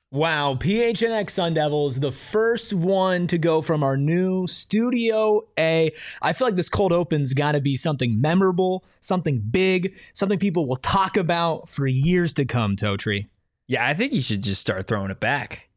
Wow, PHNX Sun Devils, the first one to go from our new Studio A. I feel like this cold open's got to be something memorable, something big, something people will talk about for years to come, Totri. Yeah, I think you should just start throwing it back.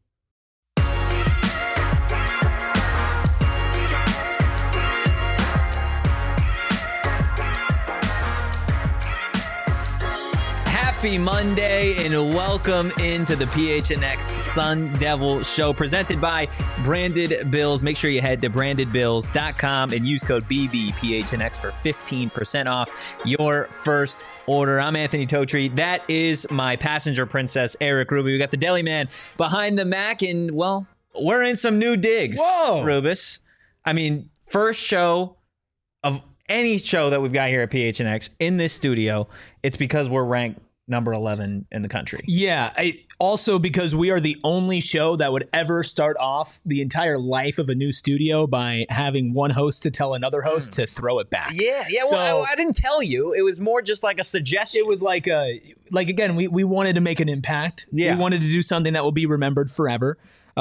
Happy Monday and welcome into the PHNX Sun Devil Show presented by Branded Bills. Make sure you head to brandedbills.com and use code BBPHNX for 15% off your first order. I'm Anthony Totri. That is my passenger princess, Eric Ruby. We got the deli man behind the Mac, and well, we're in some new digs. Whoa, Rubus. I mean, first show of any show that we've got here at PHNX in this studio. It's because we're ranked number 11 in the country. Yeah, also because we are the only show that would ever start off the entire life of a new studio by having one host to tell another host to throw it back. Yeah. So, Well, I didn't tell you. It was more just like a suggestion. it was like again, we wanted to make an impact. Yeah. We wanted to do something that will be remembered forever.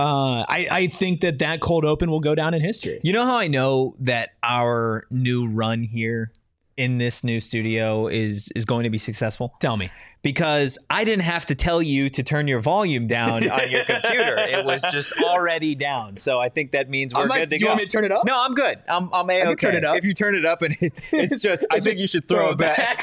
I think that cold open will go down in history. You know how I know that our new run here in this new studio is going to be successful? Tell me. Because I didn't have to tell you to turn your volume down on your computer. It was just already down. So I think that means we're good to go. Do you want me to turn it up? No, I'm good. I'm A-okay. I can turn it up. If you turn it up and it's just, I think you should throw it back.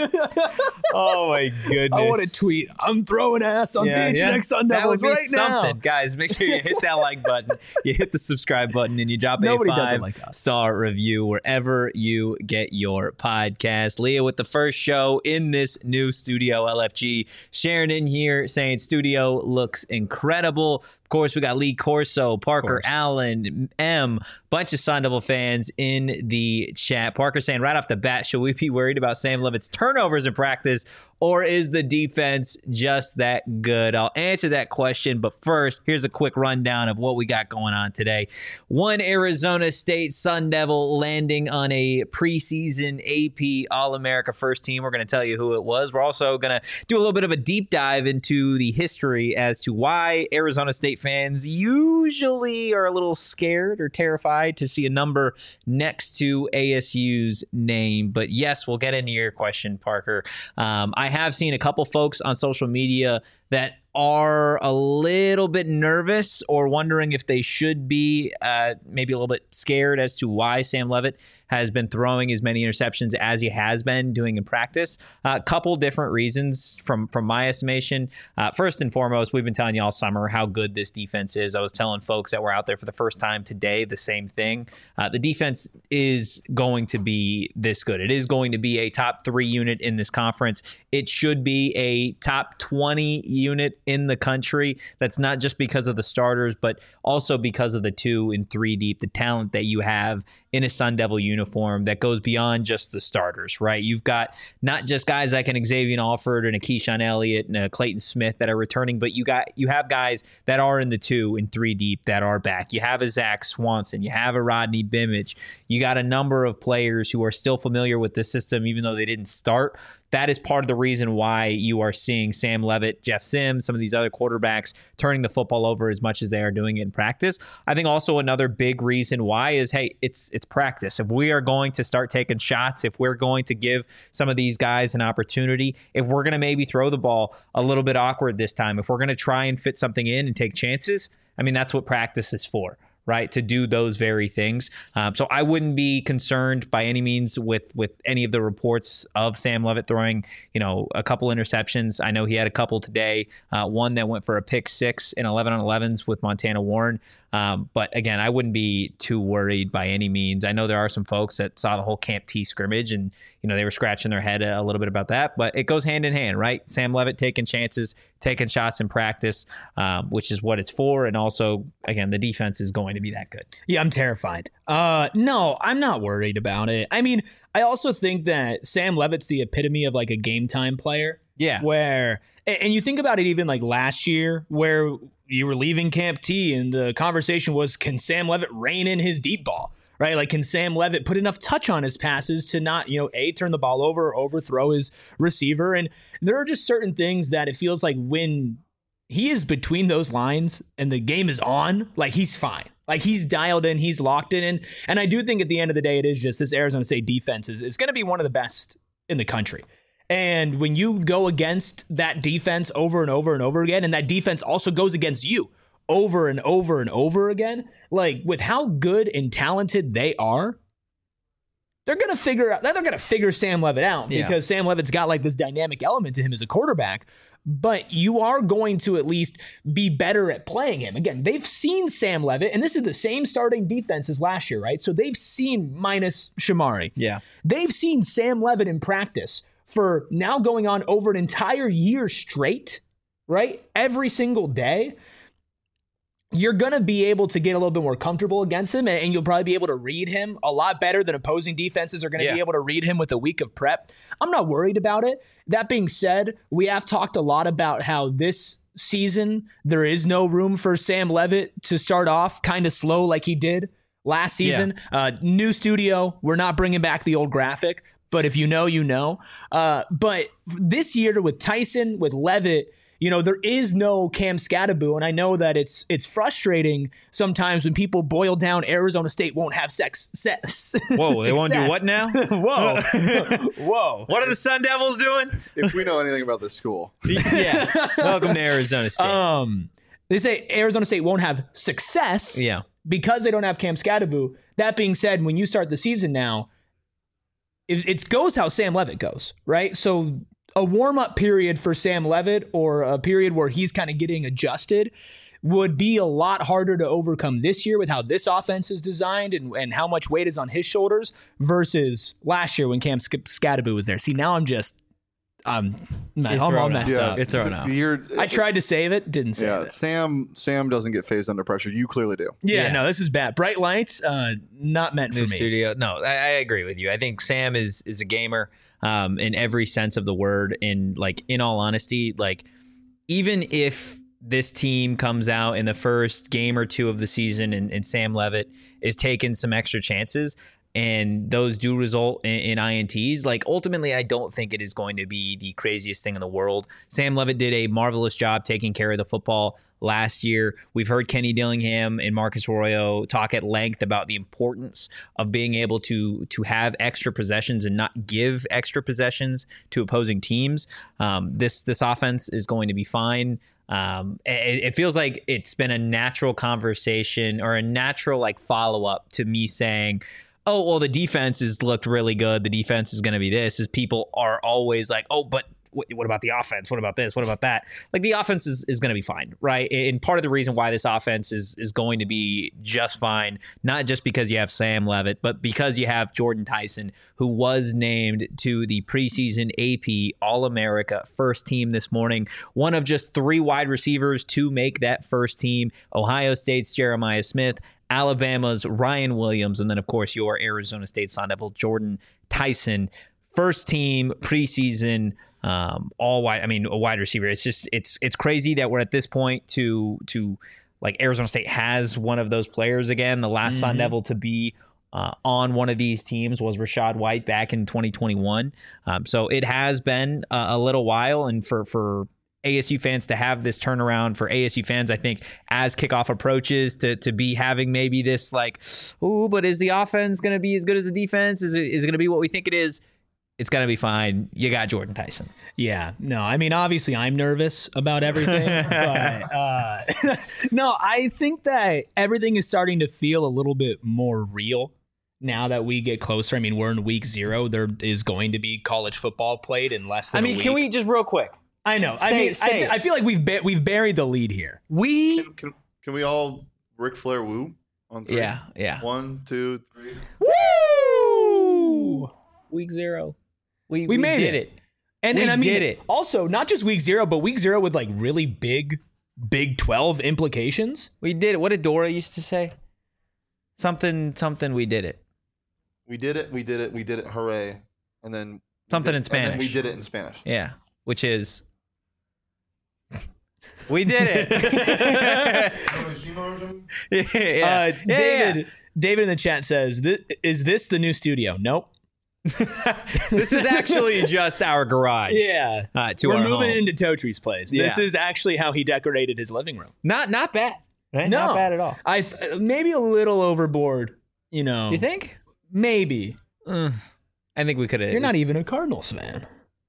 Oh my goodness. I want to tweet, I'm throwing ass on PHNX Sun Devils right now. Guys, make sure you hit that like button, you hit the subscribe button, and you drop Nobody a does it like us. 5-star review wherever you get your podcast. Leah with the first show in this new studio, LFG. Sharon in here saying studio looks incredible. Of course, we got Lee Corso, Parker Allen, bunch of Sun Devil fans in the chat. Parker saying right off the bat, should we be worried about Sam Levitt's turnovers in practice, or is the defense just that good? I'll answer that question, but first, here's a quick rundown of what we got going on today. One Arizona State Sun Devil landing on a preseason AP All-America first team. We're going to tell you who it was. We're also going to do a little bit of a deep dive into the history as to why Arizona State fans usually are a little scared or terrified to see a number next to ASU's name. But yes, we'll get into your question, Parker. I have seen a couple folks on social media that are a little bit nervous or wondering if they should be maybe a little bit scared as to why Sam Levitt has been throwing as many interceptions as he has been doing in practice. A couple different reasons from my estimation. First and foremost, we've been telling you all summer how good this defense is. I was telling folks that were out there for the first time today the same thing. The defense is going to be this good. It is going to be a top 3 unit in this conference. It should be a top 20 unit in the country. That's not just because of the starters, but also because of the 2 and 3 deep, the talent that you have in a Sun Devil uniform that goes beyond just the starters, right? You've got not just guys like an Xavier Alford and a Keyshawn Elliott and a Clayton Smith that are returning, but you have guys that are in the 2 and 3 deep that are back. You have a Zach Swanson, you have a Rodney Bimage, you got a number of players who are still familiar with the system even though they didn't start. That is part of the reason why you are seeing Sam Levitt, Jeff Sims, some of these other quarterbacks turning the football over as much as they are doing it in practice. I think also another big reason why is, hey, it's practice. If we are going to start taking shots, if we're going to give some of these guys an opportunity, if we're going to maybe throw the ball a little bit awkward this time, if we're going to try and fit something in and take chances, I mean, that's what practice is for. Right, to do those very things. So I wouldn't be concerned by any means with any of the reports of Sam Levitt throwing, a couple interceptions. I know he had a couple today, one that went for a pick 6 in 11-on-11s with Montana Warren. But again, I wouldn't be too worried by any means. I know there are some folks that saw the whole Camp T scrimmage and, they were scratching their head a little bit about that, but it goes hand in hand, right? Sam Levitt taking chances, taking shots in practice, which is what it's for. And also, again, the defense is going to be that good. Yeah, I'm terrified. No, I'm not worried about it. I mean, I also think that Sam Levitt's the epitome of like a game time player. Yeah. And you think about it even like last year where you were leaving Camp T and the conversation was, can Sam Levitt rein in his deep ball? Right? Like, can Sam Levitt put enough touch on his passes to not, turn the ball over or overthrow his receiver? And there are just certain things that it feels like when he is between those lines and the game is on, like he's fine. Like he's dialed in, he's locked in. And I do think at the end of the day, it is just this Arizona State defense is going to be one of the best in the country. And when you go against that defense over and over and over again, and that defense also goes against you over and over and over again, like with how good and talented they are, they're going to figure Sam Leavitt out because Sam Leavitt's got like this dynamic element to him as a quarterback. But you are going to at least be better at playing him. Again, they've seen Sam Leavitt, and this is the same starting defense as last year, right? So they've seen, minus Shamari. Yeah. They've seen Sam Leavitt in practice for now going on over an entire year straight, right? Every single day. You're going to be able to get a little bit more comfortable against him, and you'll probably be able to read him a lot better than opposing defenses are going to be able to read him with a week of prep. I'm not worried about it. That being said, we have talked a lot about how this season there is no room for Sam Leavitt to start off kind of slow like he did last season. New studio, we're not bringing back the old graphic, but if you know, you know. But this year with Tyson, with Leavitt, you know, there is no Cam Scadaboo, and I know that it's frustrating sometimes when people boil down Arizona State won't have Whoa, they won't do what now? Whoa. Whoa. What are the Sun Devils doing? If we know anything about this school. Yeah. Welcome to Arizona State. They say Arizona State won't have success because they don't have Cam Scadaboo. That being said, when you start the season now, it goes how Sam Leavitt goes, right? So a warm-up period for Sam Leavitt or a period where he's kind of getting adjusted would be a lot harder to overcome this year with how this offense is designed and how much weight is on his shoulders versus last year when Cam Scadaboo was there. See, now I'm all messed up. It's thrown out. I tried to save it, didn't save it. Sam doesn't get phased under pressure. You clearly do. Yeah, no, this is bad. Bright lights, not meant for me. Studio. No, I agree with you. I think Sam is a gamer. In every sense of the word. And like, in all honesty, like even if this team comes out in the first game or two of the season and Sam Leavitt is taking some extra chances and those do result in INTs, like ultimately, I don't think it is going to be the craziest thing in the world. Sam Leavitt did a marvelous job taking care of the football last year. We've heard Kenny Dillingham and Marcus Arroyo talk at length about the importance of being able to have extra possessions and not give extra possessions to opposing teams. This offense is going to be fine. It feels like it's been a natural conversation or a natural like follow-up to me saying, oh, well, the defense has looked really good. The defense is going to be this. Is people are always like, oh, but what about the offense? What about this? What about that? Like the offense is going to be fine, right? And part of the reason why this offense is going to be just fine, not just because you have Sam Leavitt, but because you have Jordan Tyson, who was named to the preseason AP All-America first team this morning. One of just 3 wide receivers to make that first team. Ohio State's Jeremiah Smith, Alabama's Ryan Williams, and then, of course, your Arizona State Sun Devil, Jordan Tyson. First team preseason, all wide. I mean, a wide receiver. It's just it's crazy that we're at this point to like Arizona State has one of those players again. The last Sun Devil to be on one of these teams was Rachaad White back in 2021. So it has been a little while, and for ASU fans to have this turnaround, for ASU fans, I think, as kickoff approaches to be having maybe this like, oh, but is the offense going to be as good as the defense? Is it going to be what we think it is? It's going to be fine. You got Jordan Tyson. Yeah. No, I mean, obviously I'm nervous about everything, but no, I think that everything is starting to feel a little bit more real now that we get closer. I mean, we're in week 0. There is going to be college football played in less than a week. Can we just real quick? I know. I feel like we've buried the lead here. Can we all Ric Flair woo on 3? Yeah. 1, 2, 3. Woo! Week 0. We made it. And I mean, did it. Also, not just week 0, but week 0 with like really big Big 12 implications. We did it. What did Dora used to say? Something. We did it. We did it. Hooray! And then something in Spanish. And then we did it in Spanish. Yeah, which is. We did it. David in the chat says, "Is this the new studio?" Nope. This is actually just our garage. Yeah. To We're our moving home. into Totry's place. This Yeah. is actually how he decorated his living room. Not bad. Right? No. Not bad at all. Maybe a little overboard, you know. You think? Maybe. I think we could have. You're not even a Cardinals fan.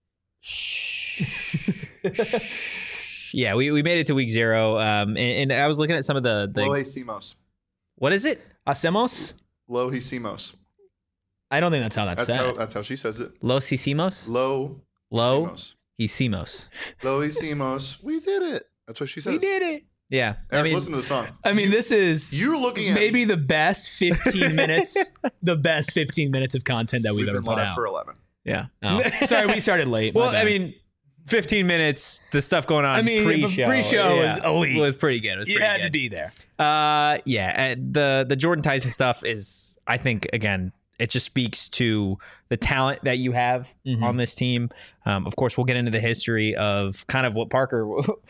Yeah, we made it to week 0. And I was looking at some of the Lohisimos. what is it? Hacemos? Lohisimos. I don't think that's how that's said. That's how she says it. Los Hicimos? Lo. Lo Hicimos. Hicimos. Lohisimos. We did it. That's what she says. We did it. Yeah. Eric, listen to the song. I mean, this is You're looking at maybe the best 15 minutes, the best 15 minutes of content that we've ever been put live out. for 11. Yeah. Oh. Sorry, we started late. Well, My bad. I mean, 15 minutes, the stuff going on pre-show. pre-show was elite. Was pretty good. It was you pretty had good. to be there. Yeah, the Jordan Tyson stuff is, I think, again, it just speaks to the talent that you have on this team. Of course, we'll get into the history of kind of what Parker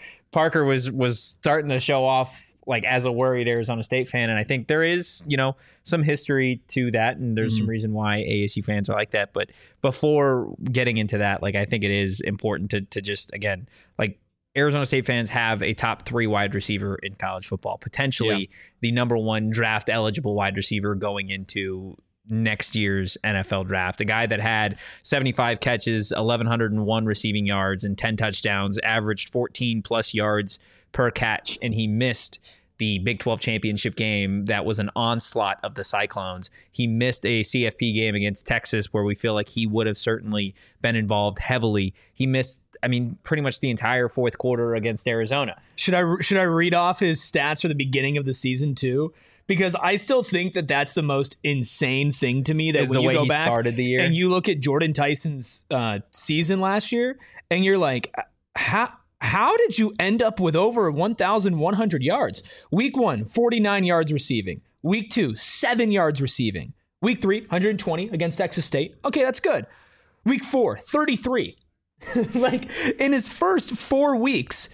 was starting to show off, like, as a worried Arizona State fan, and I think there is, some history to that, and there's some reason why ASU fans are like that. But before getting into that, like, I think it is important to just, again, like, Arizona State fans have a top 3 wide receiver in college football, potentially the number 1 draft eligible wide receiver going into next year's NFL draft. A guy that had 75 catches, 1,101 receiving yards, and 10 touchdowns, averaged 14 plus yards per catch, and he missed the Big 12 championship game that was an onslaught of the Cyclones. He missed a CFP game against Texas where we feel like he would have certainly been involved heavily. He missed, pretty much the entire fourth quarter against Arizona. Should I read off his stats for the beginning of the season too? Because I still think that that's the most insane thing to me. That Is when the you way go he back started the year. and you look at Jordan Tyson's season last year, and you're like, how did you end up with over 1,100 yards? Week 1, 49 yards receiving. Week 2, 7 yards receiving. Week 3, 120 against Texas State. Okay, that's good. Week 4, 33. Like, in his first 4 weeks,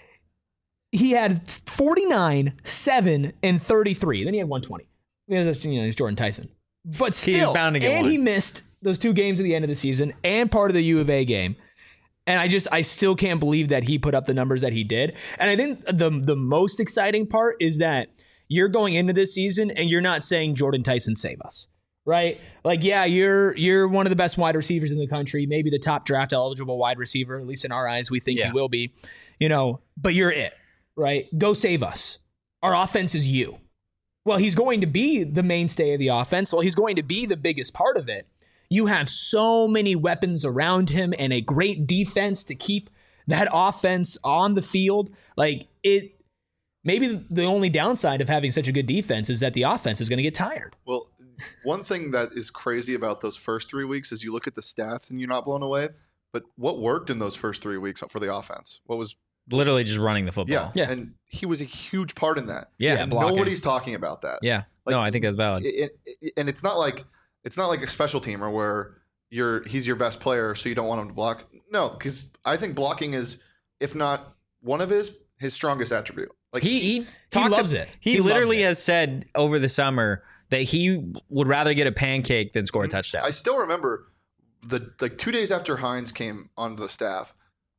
he had 49, 7, and 33. Then he had 120. Because, he's Jordan Tyson. But still, bound to get and one. he missed those 2 games at the end of the season and part of the U of A game. And I still can't believe that he put up the numbers that he did. And I think the most exciting part is that you're going into this season and you're not saying Jordan Tyson save us, right? Like, yeah, you're one of the best wide receivers in the country, maybe the top draft eligible wide receiver, at least in our eyes, we think he will be, but you're it, right? Go save us. Our offense is you. Well, he's going to be the mainstay of the offense. Well, he's going to be the biggest part of it. You have so many weapons around him and a great defense to keep that offense on the field. Like, it, maybe the only downside of having such a good defense is that the offense is going to get tired. Well, one thing that is crazy about those first 3 weeks is you look at the stats and you're not blown away. But what worked in those first 3 weeks for the offense? What was Literally just running the football. Yeah. And he was a huge part in that. Yeah, and blocking. nobody's talking about that. Yeah. Like, No, I think that's valid. And it's not like a special teamer where he's your best player, so you don't want him to block. No, because I think blocking is, if not one of his strongest attribute. Like He loves it. He He literally loves it. has said over the summer that he would rather get a pancake than score a touchdown. I still remember 2 days after Hines came onto the staff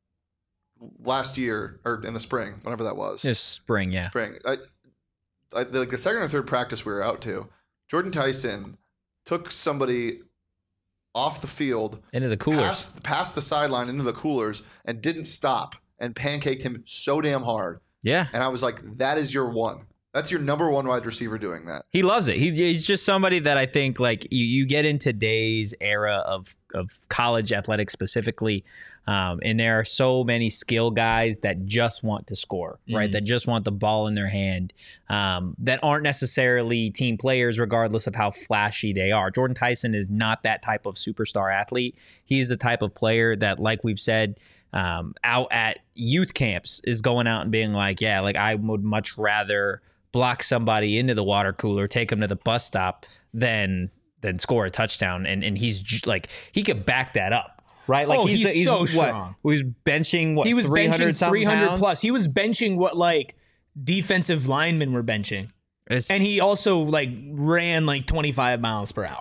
last year, or in the spring, whenever that was. Just spring, yeah. Spring. The second or third practice we were out to, Jordan Tyson took somebody off the field, Into the coolers. past the sideline into the coolers, and didn't stop and pancaked him so damn hard. Yeah. And I was like, that is your one. That's your number 1 wide receiver doing that. He loves it. He's just somebody that I think, like, you get in today's era of college athletics specifically, and there are so many skill guys that just want to score, right? That just want the ball in their hand, that aren't necessarily team players, regardless of how flashy they are. Jordan Tyson is not that type of superstar athlete. He's the type of player that, like we've said, out at youth camps is going out and being like, yeah, like, I would much rather block somebody into the water cooler, take them to the bus stop, than score a touchdown. And he's like, he could back that up, right? Like, he's so what, strong. He was benching He was benching 300 pounds? plus. He was benching what, like, defensive linemen were benching. And he also, like, ran like 25 miles per hour.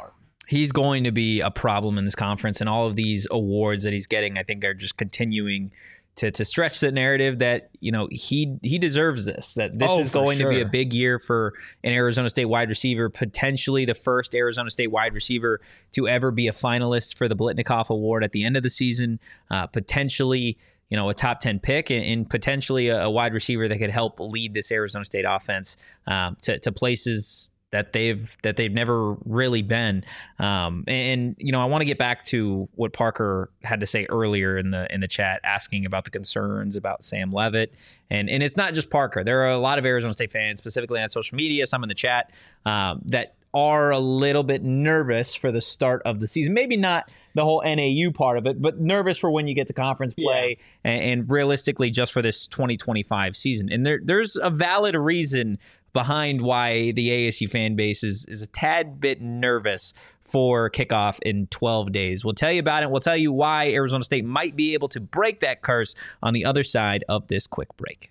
He's going to be a problem in this conference, and all of these awards that he's getting, I think, are just continuing to stretch the narrative that, he deserves this, that this is going to be a big year for an Arizona State wide receiver, potentially the first Arizona State wide receiver to ever be a finalist for the Blitnikoff Award at the end of the season, potentially a top 10 pick, and potentially a wide receiver that could help lead this Arizona State offense to places that they've never really been. And I want to get back to what Parker had to say earlier in the chat, asking about the concerns about Sam Leavitt. And it's not just Parker. There are a lot of Arizona State fans, specifically on social media, some in the chat, that are a little bit nervous for the start of the season. Maybe not the whole NAU part of it, but nervous for when you get to conference play, and realistically just for this 2025 season. And there's a valid reason behind why the ASU fan base is a tad bit nervous for kickoff in 12 days. We'll tell you about it. We'll tell you why Arizona State might be able to break that curse on the other side of this quick break.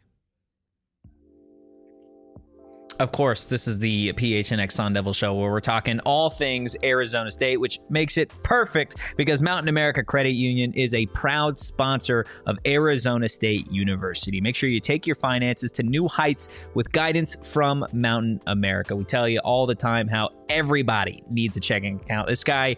Of course, this is the PHNX Sun Devil Show, where we're talking all things Arizona State, which makes it perfect because Mountain America Credit Union is a proud sponsor of Arizona State University. Make sure you take your finances to new heights with guidance from Mountain America. We tell you all the time how everybody needs a checking account. This guy,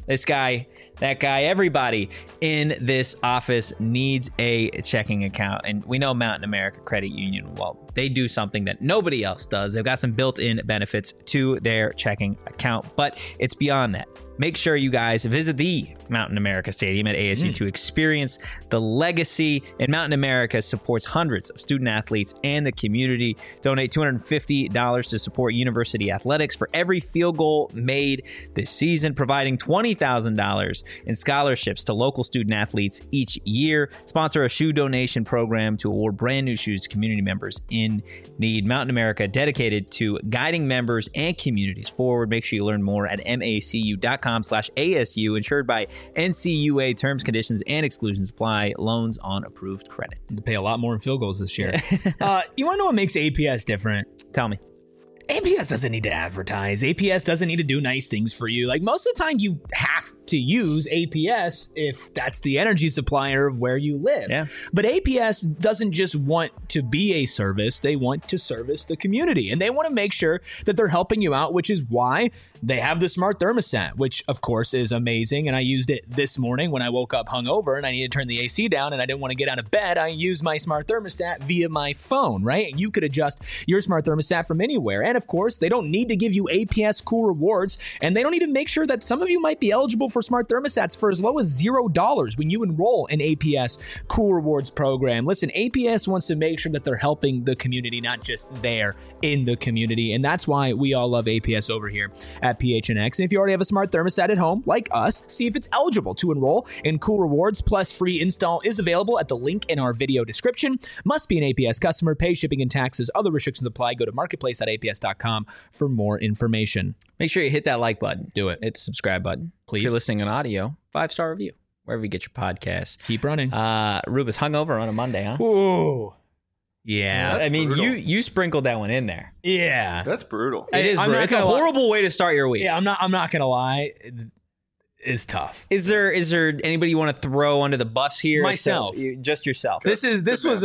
that guy, everybody in this office needs a checking account. And we know Mountain America Credit Union, well, they do something that nobody else does. They've got some built-in benefits to their checking account, but it's beyond that. Make sure you guys visit the Mountain America Stadium at ASU to experience the legacy. And Mountain America supports hundreds of student athletes and the community. Donate $250 to support university athletics for every field goal made this season, providing $20,000 in scholarships to local student athletes each year. Sponsor a shoe donation program to award brand new shoes to community members in need. Mountain America, dedicated to guiding members and communities forward. Make sure you learn more at macu.com/ASU, insured by NCUA. Terms, conditions, and exclusions apply. Loans on approved credit. To pay a lot more in field goals this year. You want to know what makes APS different? Tell me. APS doesn't need to advertise. APS doesn't need to do nice things for you. Like, most of the time, you have to use APS if that's the energy supplier of where you live. Yeah. But APS doesn't just want to be a service. They want to service the community. And they want to make sure that they're helping you out, which is why they have the smart thermostat, which, of course, is amazing. And I used it this morning when I woke up hungover and I needed to turn the AC down and I didn't want to get out of bed. I used my smart thermostat via my phone, right? And you could adjust your smart thermostat from anywhere. And of course, they don't need to give you APS cool rewards, and they don't need to make sure that some of you might be eligible for smart thermostats for as low as $0 when you enroll in APS cool rewards program. Listen, APS wants to make sure that they're helping the community, not just there in the community. And that's why we all love APS over here at PHNX. And if you already have a smart thermostat at home, like us, see if it's eligible to enroll in cool rewards. Plus, free install is available at the link in our video description. Must be an APS customer, pay shipping and taxes. Other restrictions apply. Go to marketplace.aps.com for more information. Make sure you hit that like button. Do it. Hit the subscribe button. Please. If you're listening on audio, 5-star review, wherever you get your podcasts. Keep running. Rubus hungover on a Monday, huh? Ooh. Yeah. That's I mean, brutal. you sprinkled that one in there. Yeah. That's brutal. It is I'm brutal. not It's a gonna lie. horrible way to start your week. Yeah, I'm not gonna lie. It's tough. Is there anybody you want to throw under the bus here? Myself. Just yourself. This is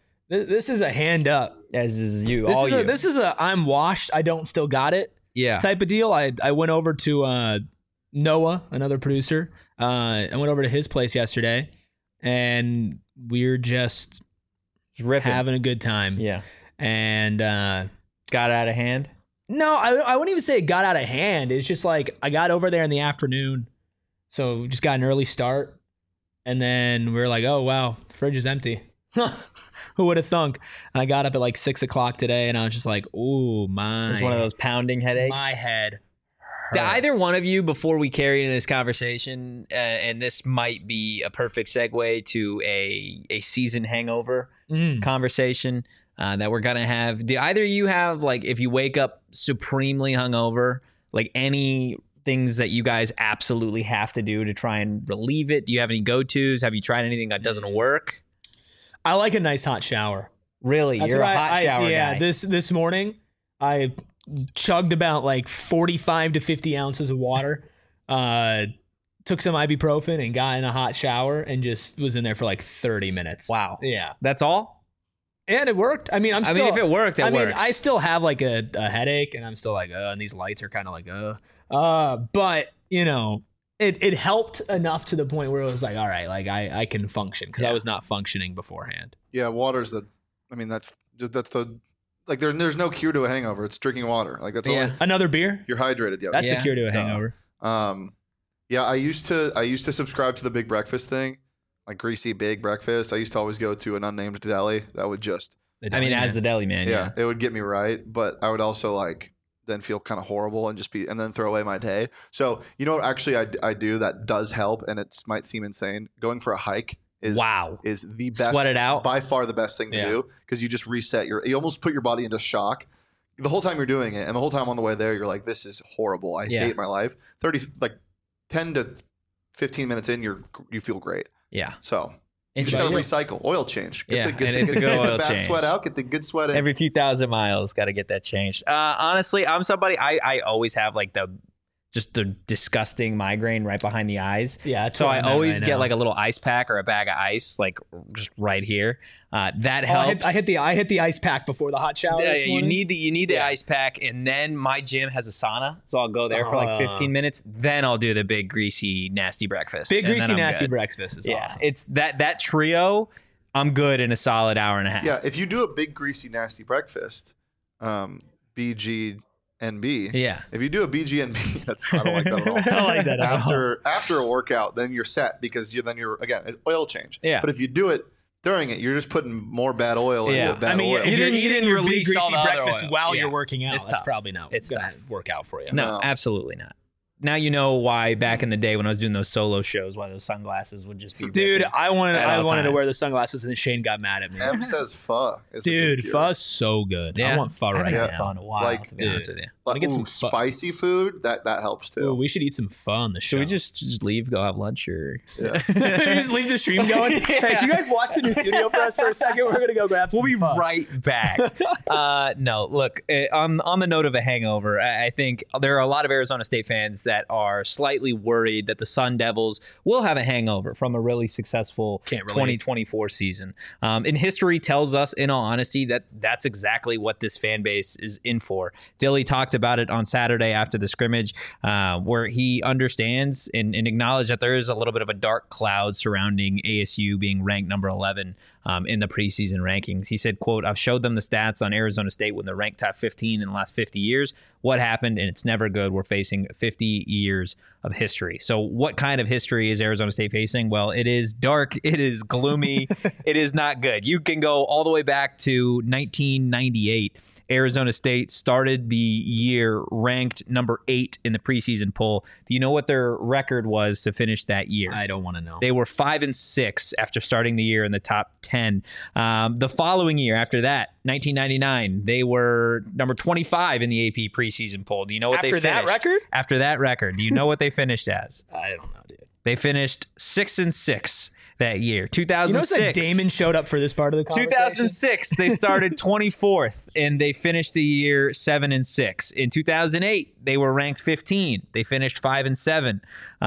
a hand up. As is you. This is a I'm washed, I don't still got it yeah. type of deal. I went over to Noah, another producer. I went over to his place yesterday, and we're just Ripping. having a good time. Yeah. And Got out of hand. no, I wouldn't even say it got out of hand. It's just like I got over there in the afternoon, so we just got an early start, and then we were like, oh wow, the fridge is empty. Who would have thunk? And I got up at like 6 o'clock today, and I was just like, ooh, It's one of those pounding headaches. my head. Do hurts. either one of you, before we carry into this conversation, and this might be a perfect segue to a season hangover conversation that we're gonna have. Do either of you have, like, if you wake up supremely hungover, like any things that you guys absolutely have to do to try and relieve it? Do you have any go-tos? Have you tried anything that doesn't work? I like a nice hot shower. Really, That's you're a what hot shower yeah, guy. this morning I chugged about like 45 to 50 ounces of water Took some ibuprofen and got in a hot shower and just was in there for like 30 minutes. Wow. Yeah. That's all? And it worked. I mean, if it worked, it works. I still have like a headache and I'm still like, and these lights are kind of like, but you know, it helped enough to the point where it was like, all right, like I can function because I was not functioning beforehand. Yeah, water's that's the like there's no cure to a hangover. It's drinking water. Like that's all. Another beer. You're hydrated. Yeah, That's the cure to a hangover. Yeah, I used to subscribe to the big breakfast thing, like greasy big breakfast. I used to always go to an unnamed deli that would just. As the deli man. Yeah, it would get me right, but I would also like then feel kind of horrible and and then throw away my day. So you know what? Actually, I do that does help, and it might seem insane. Going for a hike is the best. Sweat it out. By far the best thing to do because you just reset you almost put your body into shock. The whole time you're doing it, and the whole time on the way there, you're like, "This is horrible. I hate my life." 10 to 15 minutes in, you feel great. Yeah. So you just gotta recycle, oil change. Get the bad sweat out. Get the good sweat in. Every few thousand miles, got to get that changed. Honestly, I'm somebody I always have like the disgusting migraine right behind the eyes. Yeah. So I always get like a little ice pack or a bag of ice, like just right here. That helps. I hit the ice pack before the hot shower. Yeah, you need the ice pack, and then my gym has a sauna, so I'll go there for like 15 minutes. Then I'll do the big greasy nasty breakfast. Big greasy nasty breakfast is awesome. It's that trio. I'm good in a solid hour and a half. Yeah, if you do a big greasy nasty breakfast, BGNB. Yeah. If you do a BGNB, I don't like that at all. I don't like that at all. After a workout, then you're set because you're again it's oil change. Yeah. But if you do it during it, you're just putting more bad oil into bad oil. If you're eating your big greasy breakfast oil. while you're working out, that's tough. probably not going to work out for you. No, absolutely not. Now you know why back in the day when I was doing those solo shows, why those sunglasses would just be. Dude, I wanted to wear the sunglasses, and Shane got mad at me. M says pho. Dude, pho's so good. Yeah. I want pho right now. Pho in a while, to be honest with you. Get some spicy food. That helps too. Ooh, we should eat some pho on the show. Should we just leave, go have lunch, or just leave the stream going? Hey, can you guys watch the new studio for us for a second? We're gonna go grab some. We'll be right back. No, look. On the note of a hangover, I think there are a lot of Arizona State fans that are slightly worried that the Sun Devils will have a hangover from a really successful 2024 season. And history tells us, in all honesty, that that's exactly what this fan base is in for. Dilly talked about it on Saturday after the scrimmage, where he understands and acknowledged that there is a little bit of a dark cloud surrounding ASU being ranked number 11 in the preseason rankings. He said, quote, "I've showed them the stats on Arizona State when they're ranked top 15 in the last 50 years. What happened? And it's never good. We're facing 50 years of history." So what kind of history is Arizona State facing? Well, it is dark. It is gloomy. It is not good. You can go all the way back to 1998. Arizona State started the year ranked number 8 in the preseason poll. Do you know what their record was to finish that year? I don't want to know. They were 5-6 after starting the year in the top 10. The following year after that, 1999, they were number 25 in the AP preseason poll. Do you know what they finished? After that record, do you know what they finished as? I don't know, dude. They finished 6-6 that year. 2006. You know that Damon showed up for this part of the conversation? 2006, they started 24th, and they finished the year 7-6. In 2008, they were ranked 15. They finished 5-7.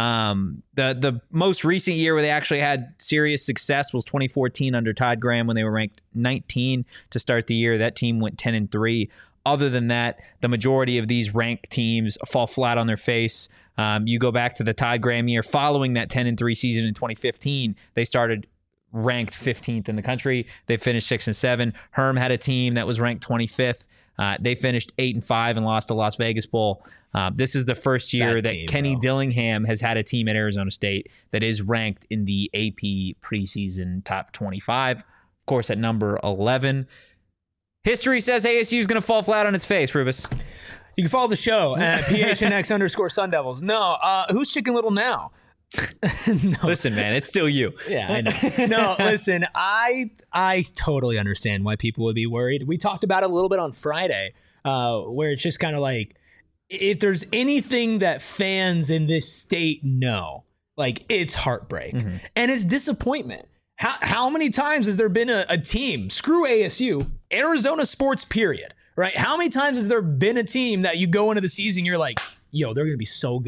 The most recent year where they actually had serious success was 2014 under Todd Graham when they were ranked 19 to start the year. That team went 10-3. Other than that, the majority of these ranked teams fall flat on their face. You go back to the Todd Graham year following that 10-3 season in 2015. They started ranked 15th in the country. They finished 6-7. Herm had a team that was ranked 25th. They finished 8-5 and lost to Las Vegas Bowl. This is the first year that Kenny Dillingham has had a team at Arizona State that is ranked in the AP preseason top 25. Of course, at number 11. History says ASU is going to fall flat on its face, Rubus. You can follow the show at PHNX_Sun Devils. No, who's Chicken Little now? No. Listen, man, it's still you. Yeah, I know. No, listen, I totally understand why people would be worried. We talked about it a little bit on Friday, where it's just kind of like, if there's anything that fans in this state know, like, it's heartbreak and it's disappointment. How many times has there been a team, screw ASU, Arizona sports period, right? How many times has there been a team that you go into the season, you're like, yo, they're going to be so good.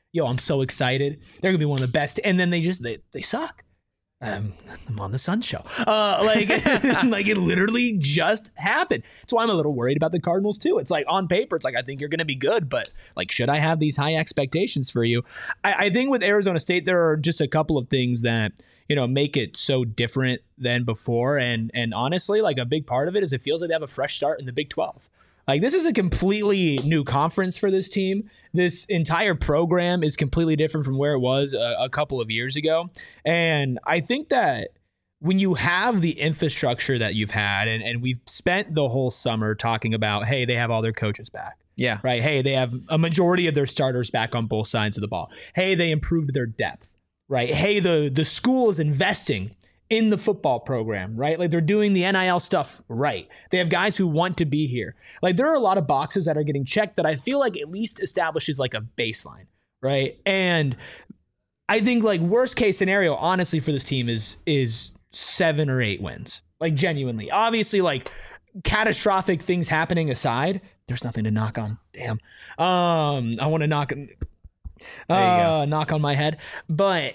yo, I'm so excited. They're gonna be one of the best. And then they suck. I'm on the Sun Show. Like it literally just happened. That's why I'm a little worried about the Cardinals too. It's like on paper, it's like I think you're going to be good, but like, should I have these high expectations for you? I think with Arizona State, there are just a couple of things that make it so different than before. And honestly, like a big part of it is it feels like they have a fresh start in the Big 12. Like this is a completely new conference for this team. This entire program is completely different from where it was a couple of years ago. And I think that when you have the infrastructure that you've had, and we've spent the whole summer talking about, hey, they have all their coaches back. Yeah. Right. Hey, they have a majority of their starters back on both sides of the ball. Hey, they improved their depth. Right. Hey, the school is investing in the football program, right? Like they're doing the NIL stuff right. They have guys who want to be here. Like there are a lot of boxes that are getting checked that I feel like at least establishes like a baseline, right? And I think like worst case scenario, honestly, for this team is 7 or 8 wins. Like genuinely. Obviously, like catastrophic things happening aside, there's nothing to knock on. Damn. I want to knock on my head. But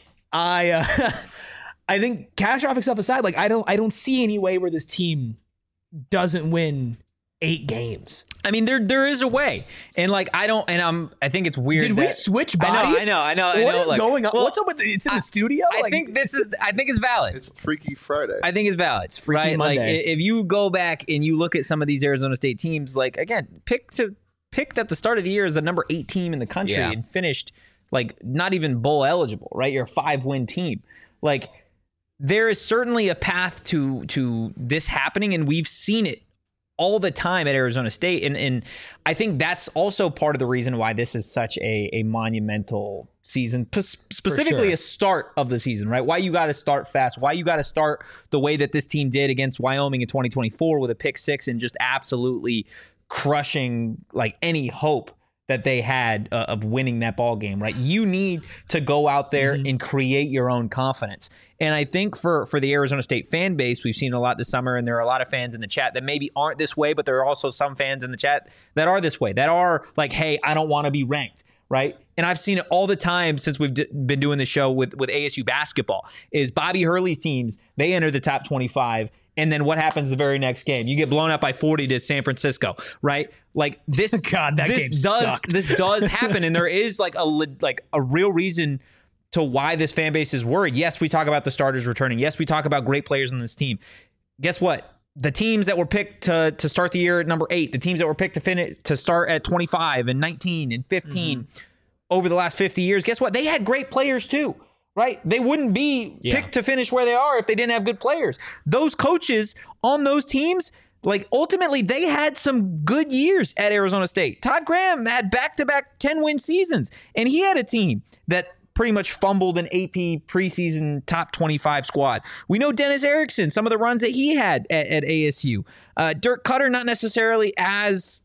I think catastrophic stuff aside, like I don't see any way where this team doesn't win 8 games. I mean, there is a way, and like I think it's weird. Did we switch bodies? I know. What is like, going on? well, What's up with it's in the studio? I think it's valid. It's Freaky Friday. I think it's valid. It's Freaky right? Monday. Like if you go back and you look at some of these Arizona State teams, like again, picked at the start of the year as the number 8 team in the country and finished like not even bowl eligible. Right, you're a 5-win team. Like there is certainly a path to this happening, and we've seen it all the time at Arizona State. And I think that's also part of the reason why this is such a monumental season, specifically a start of the season, right? Why you got to start fast, why you got to start the way that this team did against Wyoming in 2024 with a pick 6 and just absolutely crushing like any hope that they had of winning that ball game, right? You need to go out there and create your own confidence. And I think for the Arizona State fan base, we've seen a lot this summer, and there are a lot of fans in the chat that maybe aren't this way, but there are also some fans in the chat that are this way, that are like, hey, I don't want to be ranked, right? And I've seen it all the time since we've been doing the show with ASU basketball, is Bobby Hurley's teams, they enter the top 25, and then what happens the very next game? You get blown up by 40 to San Francisco, right? Like this, God, that game sucked. This does happen, and there is like a real reason to why this fan base is worried. Yes, we talk about the starters returning. Yes, we talk about great players on this team. Guess what? The teams that were picked to start the year at number 8, the teams that were picked to start at 25 and 19 and 15 over the last 50 years, guess what? They had great players too. Right? They wouldn't be picked to finish where they are if they didn't have good players. Those coaches on those teams, like ultimately they had some good years at Arizona State. Todd Graham had back-to-back 10-win seasons, and he had a team that pretty much fumbled an AP preseason top 25 squad. We know Dennis Erickson, some of the runs that he had at ASU. Dirk Cutter, not necessarily as,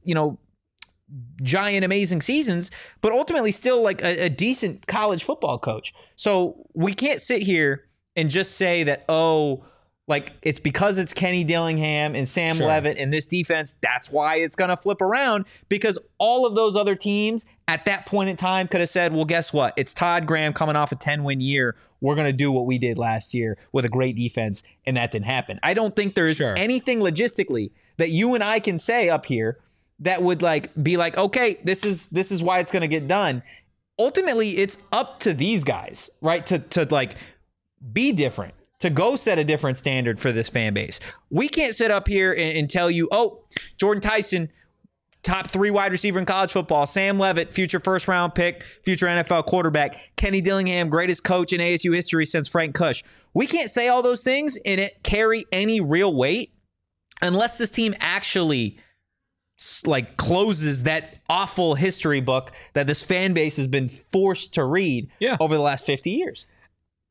giant, amazing seasons, but ultimately still like a decent college football coach. So we can't sit here and just say that, like it's because it's Kenny Dillingham and Sam Leavitt and this defense, that's why it's going to flip around, because all of those other teams at that point in time could have said, well, guess what? It's Todd Graham coming off a 10-win year. We're going to do what we did last year with a great defense, and that didn't happen. I don't think there's anything logistically that you and I can say up here that would like be like, okay, this is why it's going to get done. Ultimately, it's up to these guys, right? To like be different, to go set a different standard for this fan base. We can't sit up here and tell you, Jordan Tyson, top 3 wide receiver in college football, Sam Leavitt, future first-round pick, future NFL quarterback, Kenny Dillingham, greatest coach in ASU history since Frank Kush. We can't say all those things and it carry any real weight unless this team actually like closes that awful history book that this fan base has been forced to read over the last 50 years.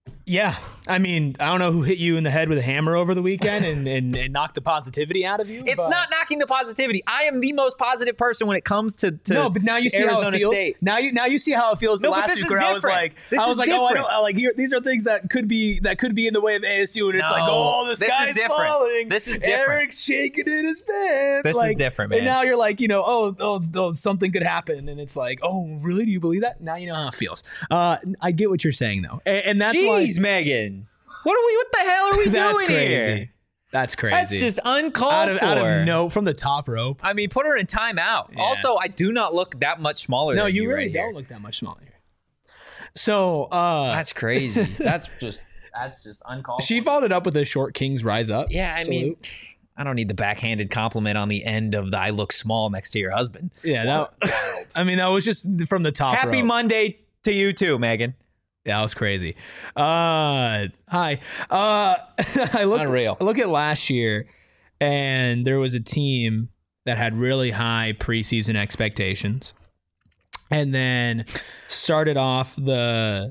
Yeah. I mean, I don't know who hit you in the head with a hammer over the weekend and knocked the positivity out of you. It's not knocking the positivity. I am the most positive person when it comes to no, but now you see Arizona how it feels. State. Now you see how it feels. No, but last this week is where I was different. like, oh, I don't like here. These are things that could be in the way of ASU, and it's like, oh, this is guy's different. falling. This is different. Eric's shaking in his pants. This is different, man. And now you're like, oh, something could happen, and it's like, oh, really? Do you believe that? Now you know how it feels. I get what you're saying though, and that's why. Jeez, Megan. What the hell are we doing here? That's crazy. That's just uncalled for. Out of no, from the top rope. I mean, put her in timeout. Yeah. Also, I do not look that much smaller than you. No, you really right don't here. look that much smaller. So that's crazy. That's just uncalled for. She followed it up with a short Kings rise up. Yeah, I mean, I don't need the backhanded compliment on the end of the I look small next to your husband. Yeah, that was just from the top Happy rope. Monday to you too, Megan. Yeah, that was crazy. Hi. I look at last year, and there was a team that had really high preseason expectations, and then started off the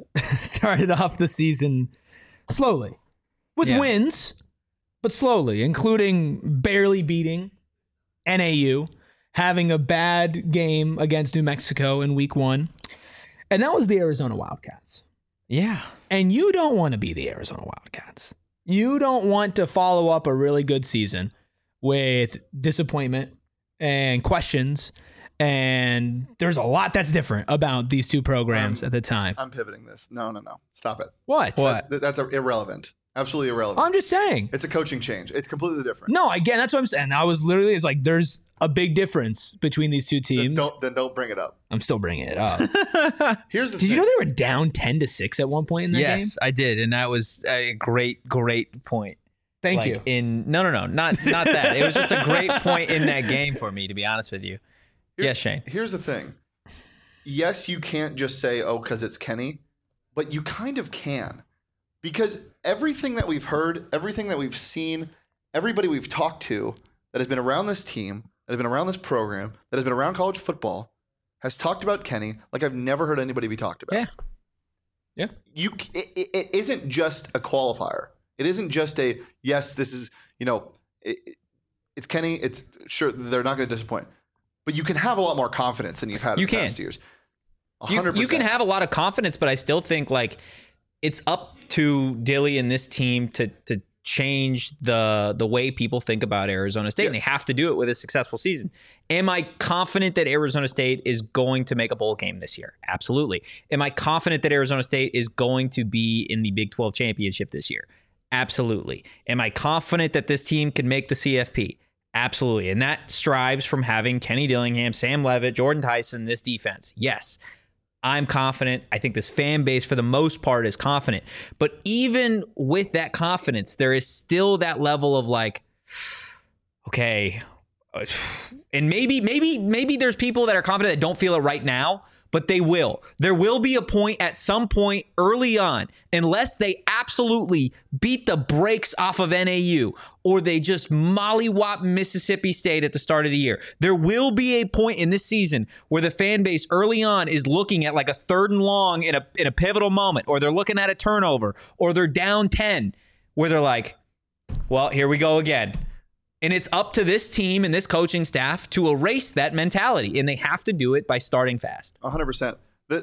season slowly with wins, but slowly, including barely beating NAU, having a bad game against New Mexico in week 1, and that was the Arizona Wildcats. Yeah. And you don't want to be the Arizona Wildcats. You don't want to follow up a really good season with disappointment and questions. And there's a lot that's different about these two programs at the time. I'm pivoting this. No. Stop it. What? That's irrelevant. Absolutely irrelevant. I'm just saying. It's a coaching change. It's completely different. No, again, that's what I'm saying. I was literally, it's like, there's a big difference between these two teams. Then don't bring it up. I'm still bringing it up. Here's the Did thing. you know they were down 10-6 at one point in that game? Yes, I did, and that was a great point. Thank you. No, not that. It was just a great point in that game for me, to be honest with you. Yes, Shane. Here's the thing. Yes, you can't just say, oh, because it's Kenny, but you kind of can. Because everything that we've heard, everything that we've seen, everybody we've talked to that has been around this team, that has been around this program, that has been around college football, has talked about Kenny like I've never heard anybody be talked about. Yeah. It isn't just a qualifier. It isn't just a, yes, this is, it's Kenny. It's sure they're not going to disappoint. But you can have a lot more confidence than you've had in the past years. 100%. You can have a lot of confidence, but I still think it's up to Dilly and this team to change the way people think about Arizona State. Yes. And they have to do it with a successful season. Am I confident that Arizona State is going to make a bowl game this year? Absolutely. Am I confident that Arizona State is going to be in the Big 12 championship this year? Absolutely. Am I confident that this team can make the CFP? Absolutely. And that strives from having Kenny Dillingham, Sam Levitt, Jordan Tyson, this defense. Yes. I'm confident. I think this fan base, for the most part, is confident. But even with that confidence, there is still that level of okay, and maybe there's people that are confident that don't feel it right now, but they will. There will be a point at some point early on, unless they absolutely beat the brakes off of NAU or they just mollywop Mississippi State at the start of the year. There will be a point in this season where the fan base early on is looking at a 3rd and long in a pivotal moment, or they're looking at a turnover, or they're down 10, where they're like, well, here we go again. And it's up to this team and this coaching staff to erase that mentality, and they have to do it by starting fast. 100%.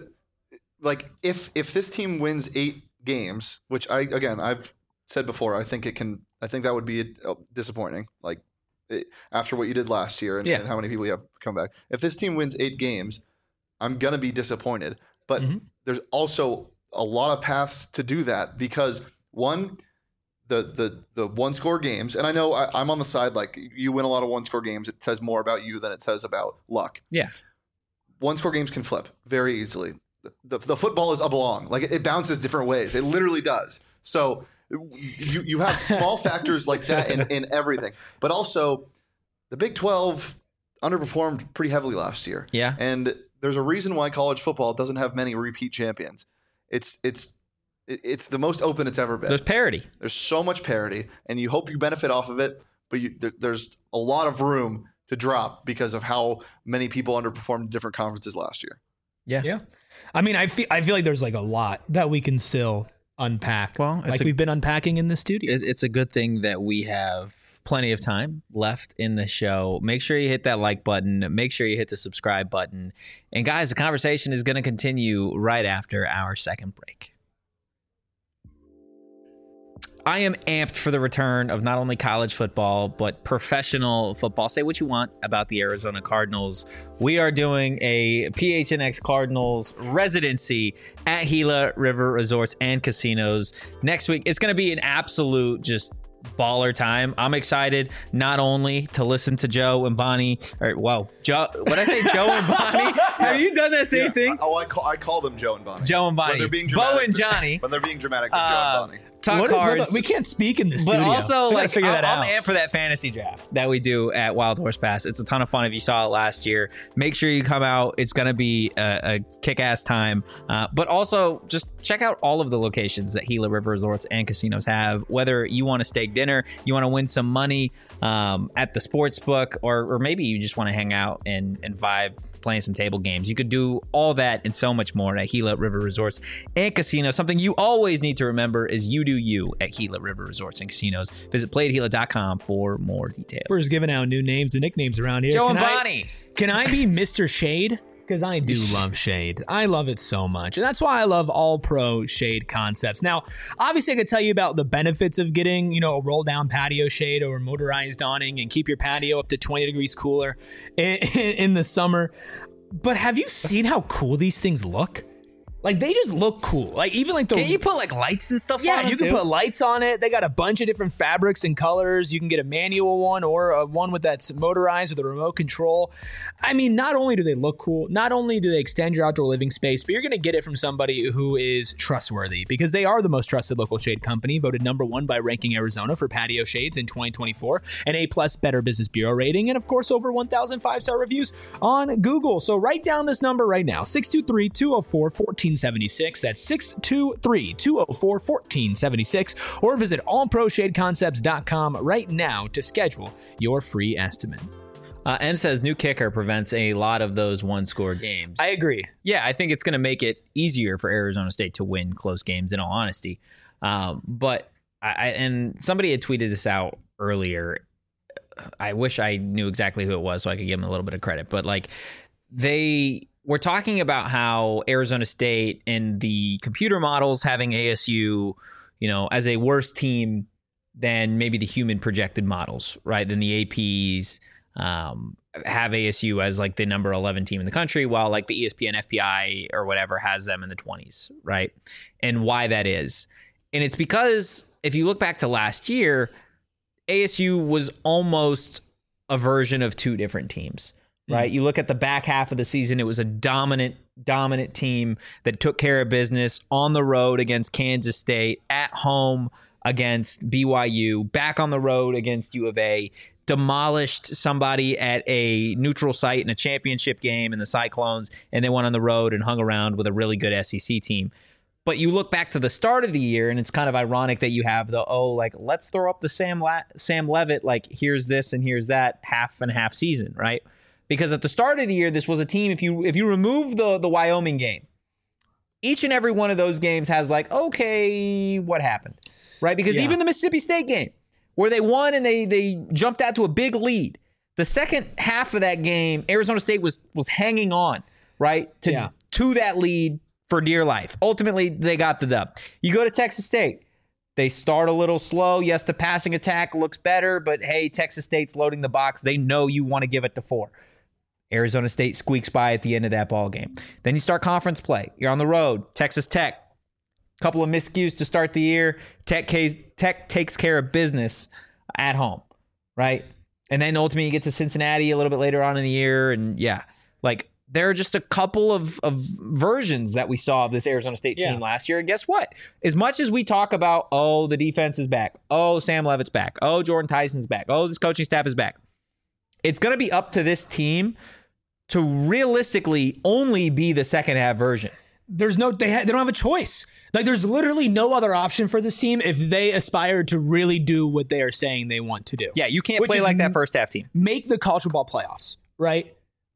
If this team wins 8 games, which I've said before, I think that would be disappointing. After what you did last year and how many people you have come back. If this team wins 8 games, I'm gonna be disappointed. But there's also a lot of paths to do that, because one, the 1-score games, and I know I'm on the side, you win a lot of 1-score games, it says more about you than it says about luck. Yeah. 1-score games can flip very easily. The football is oblong. It bounces different ways. It literally does. So you have small factors like that in everything. But also, the Big 12 underperformed pretty heavily last year. Yeah. And there's a reason why college football doesn't have many repeat champions. It's the most open it's ever been. There's parity. There's so much parity, and you hope you benefit off of it, but there's a lot of room to drop because of how many people underperformed in different conferences last year. Yeah. I mean, I feel like there's a lot that we can still unpack. Well, we've been unpacking in the studio. It's a good thing that we have plenty of time left in the show. Make sure you hit that like button. Make sure you hit the subscribe button. And guys, the conversation is going to continue right after our second break. I am amped for the return of not only college football, but professional football. Say what you want about the Arizona Cardinals. We are doing a PHNX Cardinals residency at Gila River Resorts and Casinos next week. It's going to be an absolute just baller time. I'm excited not only to listen to Joe and Bonnie, what did I say? Joe and Bonnie? Have you done that same thing? I call them Joe and Bonnie. Joe and Bonnie. When they're being dramatic, Bo and Johnny. When they're being dramatic, they're Joe and Bonnie. Talk cards. We can't speak in this but studio. Also, we like, figure that out. I'm amped for that fantasy draft that we do at Wild Horse Pass. It's a ton of fun. If you saw it last year, make sure you come out. It's going to be a kick-ass time. But also, just check out all of the locations that Gila River Resorts and Casinos have. Whether you want a steak dinner, you want to win some money at the sports book, or maybe you just want to hang out and vibe playing some table games. You could do all that and so much more at Gila River Resorts and Casinos. Something you always need to remember is you do you at Gila River Resorts and Casinos. Visit playatgila.com for more details. We're just giving out new names and nicknames around here. Joe and Bonnie. Can I be Mr. Shade? Because I do love shade. I love it so much. And that's why I love All Pro Shade Concepts. Now, obviously, I could tell you about the benefits of getting, a roll-down patio shade or motorized awning and keep your patio up to 20 degrees cooler in the summer. But have you seen how cool these things look? Like, they just look cool. Like, even like the... Can't you put, like, lights and stuff on Yeah, them you can too? put lights on it. They got a bunch of different fabrics and colors. You can get a manual one or one that's motorized with a remote control. I mean, not only do they look cool, not only do they extend your outdoor living space, but you're going to get it from somebody who is trustworthy, because they are the most trusted local shade company, voted #1 by Ranking Arizona for patio shades in 2024, an A+ Better Business Bureau rating, and of course, over 1,000 5-star reviews on Google. So write down this number right now, 623-204-1476. That's 623-204-1476, or visit allproshadeconcepts.com right now to schedule your free estimate. M says new kicker prevents a lot of those one-score games. I agree. Yeah, I think it's going to make it easier for Arizona State to win close games, in all honesty. But and somebody had tweeted this out earlier. I wish I knew exactly who it was so I could give them a little bit of credit. But like, we're talking about how Arizona State and the computer models having ASU, as a worse team than maybe the human projected models, right? Than the APs have ASU as like the number 11 team in the country, while like the ESPN FPI or whatever has them in the 20s, right? And why that is. And it's because if you look back to last year, ASU was almost a version of two different teams. Right. You look at the back half of the season, it was a dominant team that took care of business on the road against Kansas State, at home against BYU, back on the road against U of A, demolished somebody at a neutral site in a championship game in the Cyclones, and they went on the road and hung around with a really good SEC team. But you look back to the start of the year, and it's kind of ironic that you have let's throw up the Sam Leavitt, like here's this and here's that half and half season, right? Because at the start of the year, this was a team, if you remove the Wyoming game, each and every one of those games has like, okay, what happened? Right? Because even the Mississippi State game, where they won and they jumped out to a big lead, the second half of that game, Arizona State was hanging on, right? To that lead for dear life. Ultimately, they got the dub. You go to Texas State. They start a little slow. Yes, the passing attack looks better, but hey, Texas State's loading the box. They know you want to give it to 4. Arizona State squeaks by at the end of that ball game. Then you start conference play. You're on the road. Texas Tech. Couple of miscues to start the year. Tech takes care of business at home, right? And then ultimately you get to Cincinnati a little bit later on in the year. And there are just a couple of versions that we saw of this Arizona State team last year. And guess what? As much as we talk about, the defense is back. Sam Leavitt's back. Jordan Tyson's back. This coaching staff is back. It's going to be up to this team to realistically only be the second half version. They don't have a choice. Like, there's literally no other option for this team if they aspire to really do what they are saying they want to do. Yeah, you can't play like that first half team. Make the college football playoffs, right?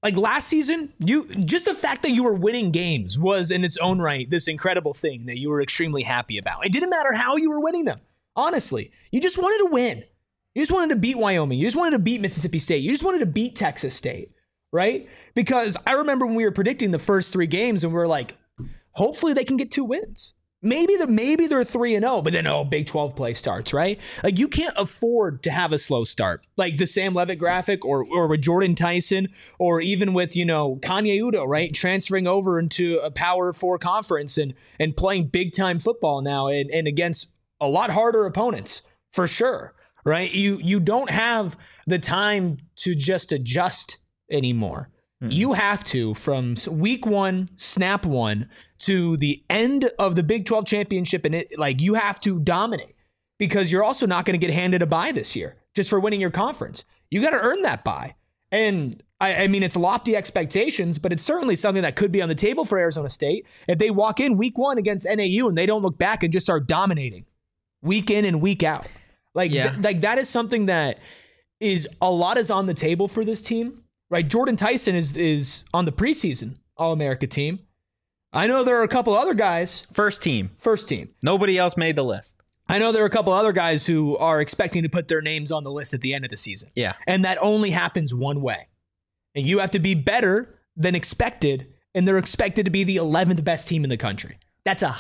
Like last season, just the fact that you were winning games was in its own right this incredible thing that you were extremely happy about. It didn't matter how you were winning them. Honestly, you just wanted to win. You just wanted to beat Wyoming. You just wanted to beat Mississippi State. You just wanted to beat Texas State, right? Because I remember when we were predicting the first 3 games and we were like, hopefully they can get 2 wins. Maybe they're 3-0, but then Big 12 play starts, right? Like you can't afford to have a slow start. Like the Sam Levitt graphic or with Jordan Tyson or even with, Kanye Udo, right? Transferring over into a Power 4 conference and playing big time football now and against a lot harder opponents for sure, right? You don't have the time to just adjust anymore. You have to, from week 1, snap 1, to the end of the Big 12 championship, and you have to dominate because you're also not going to get handed a bye this year just for winning your conference. You got to earn that bye. And I mean, it's lofty expectations, but it's certainly something that could be on the table for Arizona State if they walk in week 1 against NAU and they don't look back and just start dominating week in and week out. That is something that is on the table for this team. Right, Jordan Tyson is on the preseason All-America team. I know there are a couple other guys. First team. Nobody else made the list. I know there are a couple other guys who are expecting to put their names on the list at the end of the season. Yeah. And that only happens one way. And you have to be better than expected, and they're expected to be the 11th best team in the country. That's a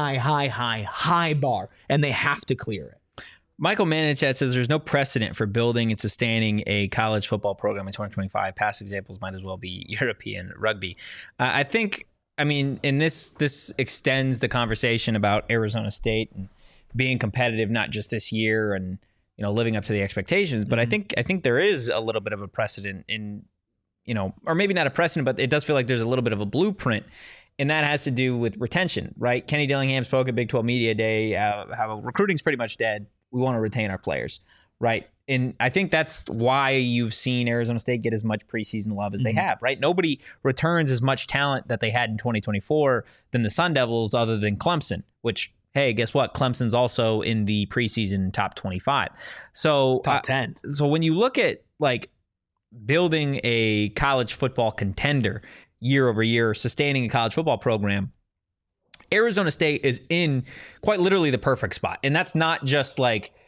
high bar, and they have to clear it. Michael Manichat says there's no precedent for building and sustaining a college football program in 2025. Past examples might as well be European rugby. I think, and this extends the conversation about Arizona State and being competitive, not just this year and, living up to the expectations. But I think there is a little bit of a precedent in, or maybe not a precedent, but it does feel like there's a little bit of a blueprint. And that has to do with retention, right? Kenny Dillingham spoke at Big 12 Media Day, how recruiting's pretty much dead. We want to retain our players, right? And I think that's why you've seen Arizona State get as much preseason love as they have, right? Nobody returns as much talent that they had in 2024 than the Sun Devils other than Clemson, which, hey, guess what? Clemson's also in the preseason top 25. So top 10. So when you look at building a college football contender year over year, sustaining a college football program, Arizona State is in quite literally the perfect spot. And that's not just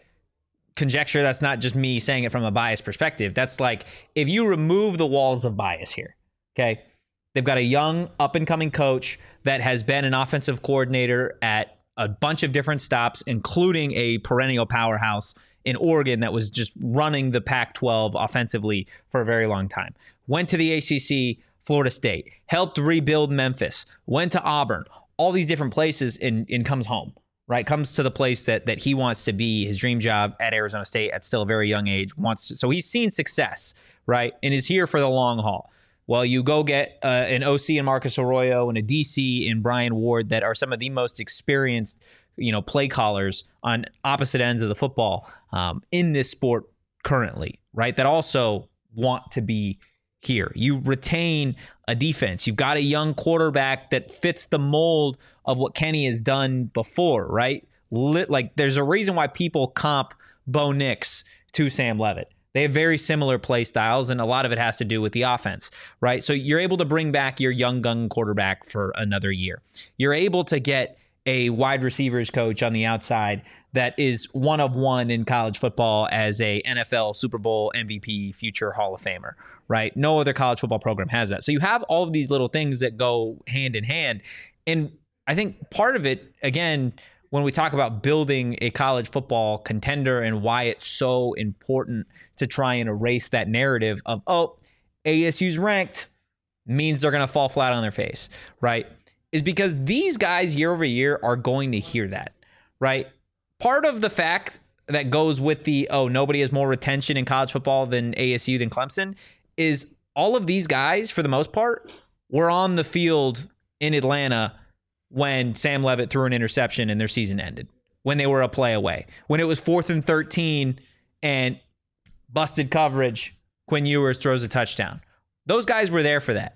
conjecture. That's not just me saying it from a biased perspective. That's if you remove the walls of bias here, okay, they've got a young up and coming coach that has been an offensive coordinator at a bunch of different stops, including a perennial powerhouse in Oregon that was just running the Pac-12 offensively for a very long time. Went to the ACC, Florida State, helped rebuild Memphis, went to Auburn, all these different places and comes home, right? Comes to the place that he wants to be, his dream job at Arizona State at still a very young age. So he's seen success, right? And is here for the long haul. Well, you go get an OC in Marcus Arroyo and a DC in Brian Ward that are some of the most experienced, play callers on opposite ends of the football in this sport currently, right? That also want to be here. You retain a defense. You've got a young quarterback that fits the mold of what Kenny has done before, right? There's a reason why people comp Bo Nix to Sam Levitt. They have very similar play styles, and a lot of it has to do with the offense, right? So you're able to bring back your young gun quarterback for another year. You're able to get a wide receivers coach on the outside that is one of one in college football as a NFL Super Bowl MVP future Hall of Famer, right? No other college football program has that. So you have all of these little things that go hand in hand. And I think part of it, again, when we talk about building a college football contender and why it's so important to try and erase that narrative of, ASU's ranked means they're going to fall flat on their face, right? Is because these guys year over year are going to hear that, right? Part of the fact that goes with the, nobody has more retention in college football than ASU than Clemson is all of these guys, for the most part, were on the field in Atlanta when Sam Levitt threw an interception and their season ended, when they were a play away, when it was 4th and 13 and busted coverage, Quinn Ewers throws a touchdown. Those guys were there for that.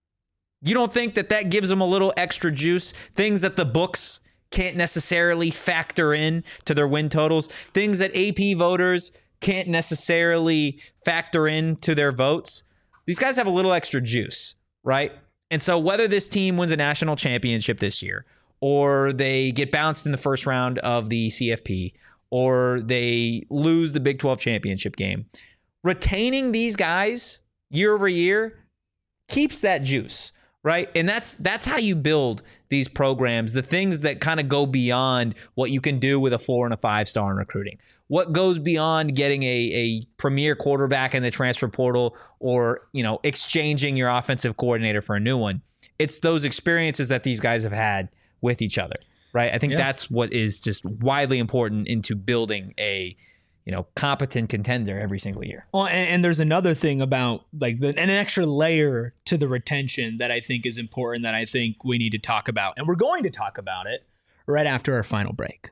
You don't think that gives them a little extra juice? Things that the books can't necessarily factor in to their win totals, things that AP voters can't necessarily factor in to their votes. these guys have a little extra juice, right? And so whether this team wins a national championship this year, or they get bounced in the first round of the CFP, or they lose the Big 12 championship game, retaining these guys year over year keeps that juice, right? And that's how you build these programs, the things that kind of go beyond what you can do with a 4 and a 5-star in recruiting. What goes beyond getting a premier quarterback in the transfer portal, or, exchanging your offensive coordinator for a new one. It's those experiences that these guys have had with each other, right? I think that's what is just widely important into building a competent contender every single year. Well, and there's another thing about an extra layer to the retention that I think is important, that I think we need to talk about. And we're going to talk about it right after our final break.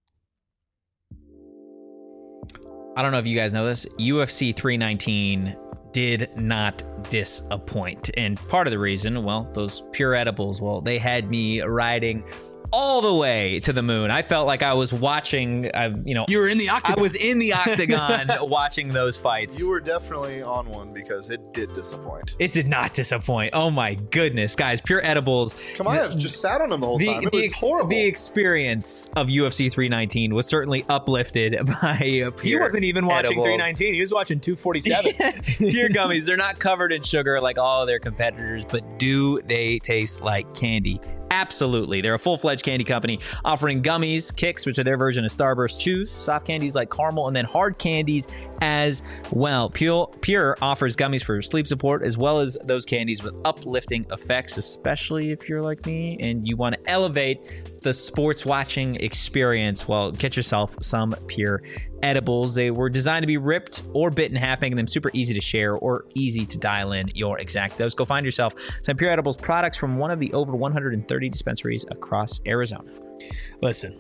I don't know if you guys know this. UFC 319 did not disappoint. And part of the reason, those pure edibles, they had me riding all the way to the moon. I felt like I was watching, You were in the octagon. I was in the octagon watching those fights. You were definitely on one, because it did disappoint. It did not disappoint. Oh my goodness, guys. Pure edibles. Kamayev just sat on them the whole time. It was horrible. The experience of UFC 319 was certainly uplifted by Pure. He wasn't even watching edibles. 319. He was watching 247. Pure gummies. They're not covered in sugar like all of their competitors, but do they taste like candy? Absolutely. They're a full-fledged candy company offering gummies, kicks, which are their version of Starburst chews, soft candies like caramel, and then hard candies as well. Pure offers gummies for sleep support, as well as those candies with uplifting effects, especially if you're like me and you want to elevate the sports watching experience. Get yourself some Pure edibles. They were designed to be ripped or bit in half, making them super easy to share or easy to dial in your exact dose. Go find yourself some Pure Edibles products from one of the over 130 dispensaries across Arizona. Listen,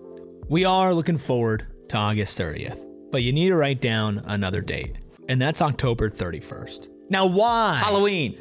we are looking forward to August 30th, but you need to write down another date, and that's October 31st. Now, why? Halloween.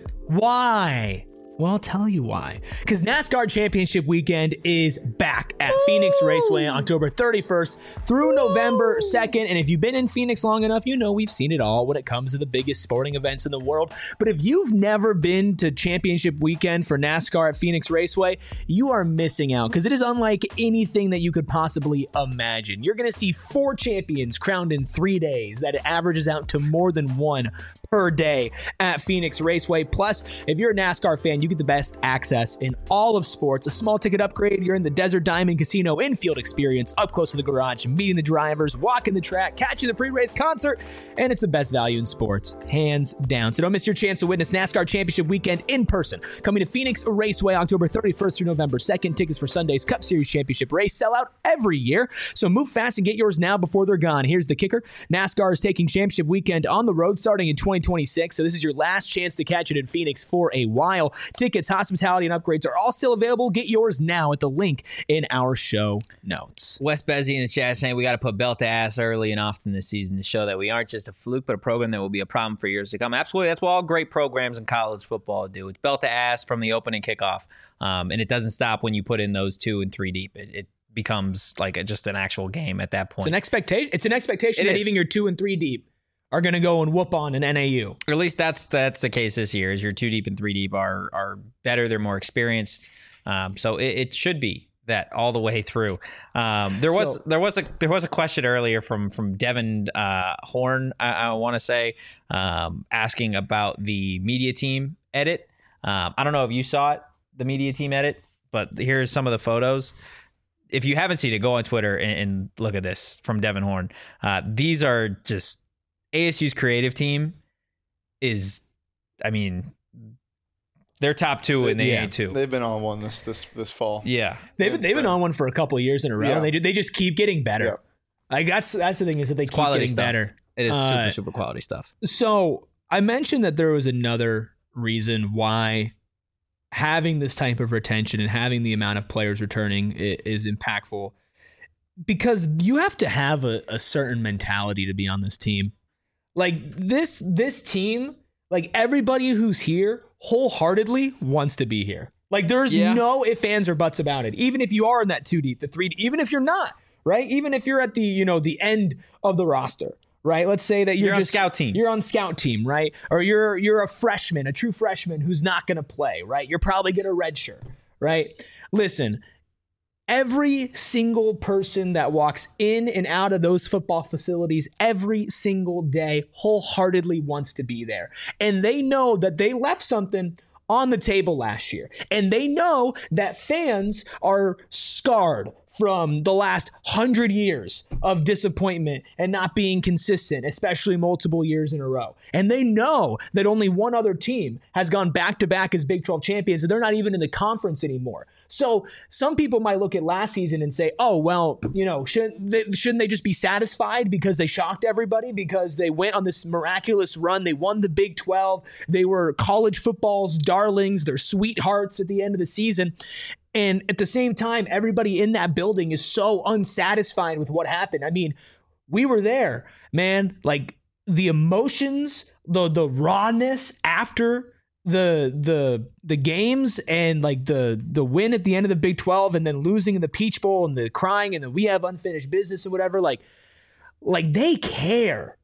Why? Well, I'll tell you why. Because NASCAR Championship Weekend is back at Phoenix Raceway on October 31st through November 2nd. And if you've been in Phoenix long enough, we've seen it all when it comes to the biggest sporting events in the world. But if you've never been to Championship Weekend for NASCAR at Phoenix Raceway, you are missing out, because it is unlike anything that you could possibly imagine. You're going to see 4 champions crowned in 3 days. That averages out to more than 1 per day at Phoenix Raceway. Plus, if you're a NASCAR fan, you get the best access in all of sports. A small ticket upgrade, you're in the Desert Diamond Casino infield experience, up close to the garage, meeting the drivers, walking the track, catching the pre-race concert, and it's the best value in sports, hands down. So don't miss your chance to witness NASCAR Championship Weekend in person. Coming to Phoenix Raceway October 31st through November 2nd. Tickets for Sunday's Cup Series Championship race sell out every year, so move fast and get yours now before they're gone. Here's the kicker. NASCAR is taking Championship Weekend on the road starting in 2026, so this is your last chance to catch it in Phoenix for a while. Tickets, hospitality, and upgrades are all still available. Get yours now at the link in our show notes. Wes Bezzi in the chat saying we got to put belt to ass early and often this season to show that we aren't just a fluke, but a program that will be a problem for years to come. Absolutely. That's what all great programs in college football do. It's belt to ass from the opening kickoff. And it doesn't stop when you put in those 2 and 3 deep. It becomes like just an actual game at that point. It's an expectation that even your 2 and 3 deep are going to go and whoop on an NAU. Or at least that's the case this year. Is your 2 deep and 3 deep are better. They're more experienced. So it should be that all the way through. There was a question earlier from Devin Horn, I want to say, asking about the media team edit. I don't know if you saw it, the media team edit, but here's some of the photos. If you haven't seen it, go on Twitter and look at this from Devin Horn. These are just ASU's creative team is, they're top 2 in the A2. They've been on one this fall. Yeah, they've been on one for a couple of years in a row. Yeah. And they just keep getting better. Yeah. Like that's the thing, is that they keep getting stuff. better. It is super quality stuff. So I mentioned that there was another reason why having this type of retention and having the amount of players returning is impactful, because you have to have a certain mentality to be on this team. Like this team, like everybody who's here wholeheartedly wants to be here. Like there's no ifs, ands, or buts about it. Even if you are in that 2 deep, the 3 deep, even if you're not, right? Even if you're at the, the end of the roster, right? Let's say that you're on just scout team. You're on scout team, right? Or you're a freshman, a true freshman who's not going to play, right? You're probably going to redshirt, right? Listen, every single person that walks in and out of those football facilities every single day wholeheartedly wants to be there. And they know that they left something on the table last year. And they know that fans are scarred from the last 100 years of disappointment and not being consistent, especially multiple years in a row. And they know that only one other team has gone back-to-back as Big 12 champions, and they're not even in the conference anymore. So some people might look at last season and say, oh, well, shouldn't they just be satisfied because they shocked everybody, because they went on this miraculous run, they won the Big 12, they were college football's darlings, their sweethearts at the end of the season. And at the same time, everybody in that building is so unsatisfied with what happened. I mean, we were there, man. Like the emotions, the rawness after the games, and like the win at the end of the Big 12, and then losing in the Peach Bowl, and the crying, and the we have unfinished business and whatever. Like they care,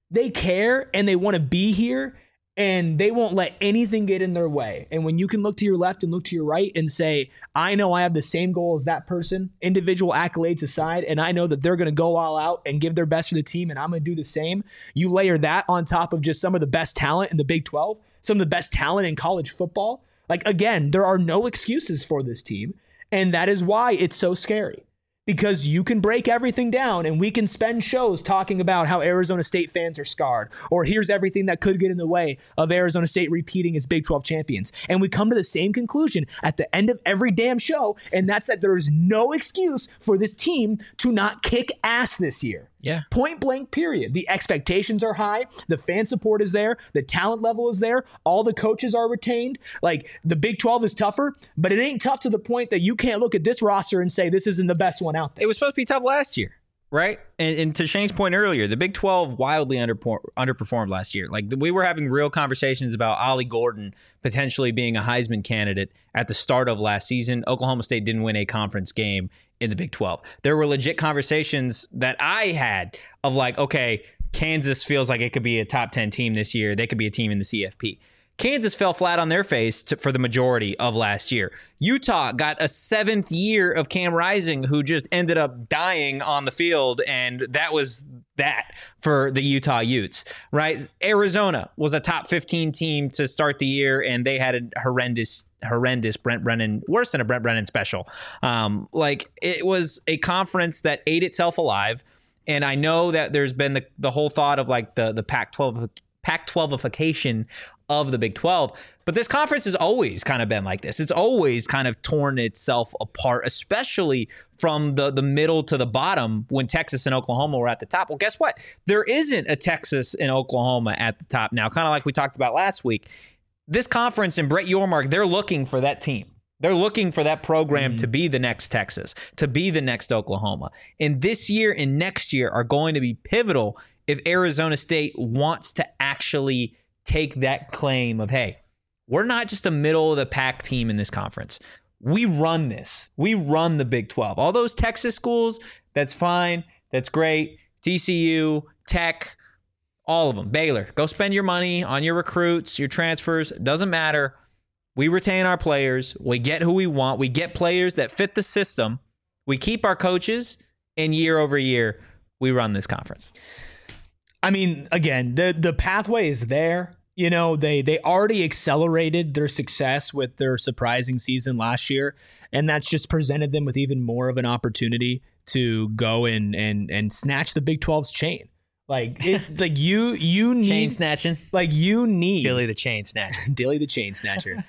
and they want to be here. And they won't let anything get in their way. And when you can look to your left and look to your right and say, I know I have the same goal as that person, individual accolades aside, and I know that they're going to go all out and give their best for the team, and I'm going to do the same. You layer that on top of just some of the best talent in the Big 12, some of the best talent in college football. Like, again, there are no excuses for this team. And that is why it's so scary. Because you can break everything down and we can spend shows talking about how Arizona State fans are scarred, or here's everything that could get in the way of Arizona State repeating as Big 12 champions. And we come to the same conclusion at the end of every damn show, and that's that there is no excuse for this team to not kick ass this year. Yeah. Point blank, period. The expectations are high. The fan support is there. The talent level is there. All the coaches are retained. Like, the Big 12 is tougher, but it ain't tough to the point that you can't look at this roster and say this isn't the best one out there. It was supposed to be tough last year, right? And to Shane's point earlier, the Big 12 wildly underperformed last year. Like, we were having real conversations about Ollie Gordon potentially being a Heisman candidate at the start of last season. Oklahoma State didn't win a conference game in the Big 12. There were legit conversations that I had of like, okay, Kansas feels like it could be a top 10 team this year. They could be a team in the CFP. Kansas fell flat on their face for the majority of last year. Utah got a 7th year of Cam Rising, who just ended up dying on the field, and that was that for the Utah Utes, right? Arizona was a top 15 team to start the year, and they had a horrendous Brent Brennan, worse than a Brent Brennan special. It was a conference that ate itself alive, and I know that there's been the whole thought of like the Pac-12ification of the Big 12. But this conference has always kind of been like this. It's always kind of torn itself apart, especially from the middle to the bottom when Texas and Oklahoma were at the top. Well, guess what? There isn't a Texas and Oklahoma at the top now, kind of like we talked about last week. This conference and Brett Yormark, they're looking for that team. They're looking for that program to be the next Texas, to be the next Oklahoma. And this year and next year are going to be pivotal if Arizona State wants to actually take that claim of, hey, we're not just a middle of the pack team in this conference. We run this. We run the Big 12. All those Texas schools, that's fine. That's great. TCU, Tech, all of them. Baylor, go spend your money on your recruits, your transfers. Doesn't matter. We retain our players. We get who we want. We get players that fit the system. We keep our coaches, and year over year, we run this conference. I mean, again, the pathway is there. You know, they already accelerated their success with their surprising season last year, and that's just presented them with even more of an opportunity to go and snatch the Big 12's chain. Like you need chain snatching. Like you need Dilly the chain snatcher. Dilly the chain snatcher.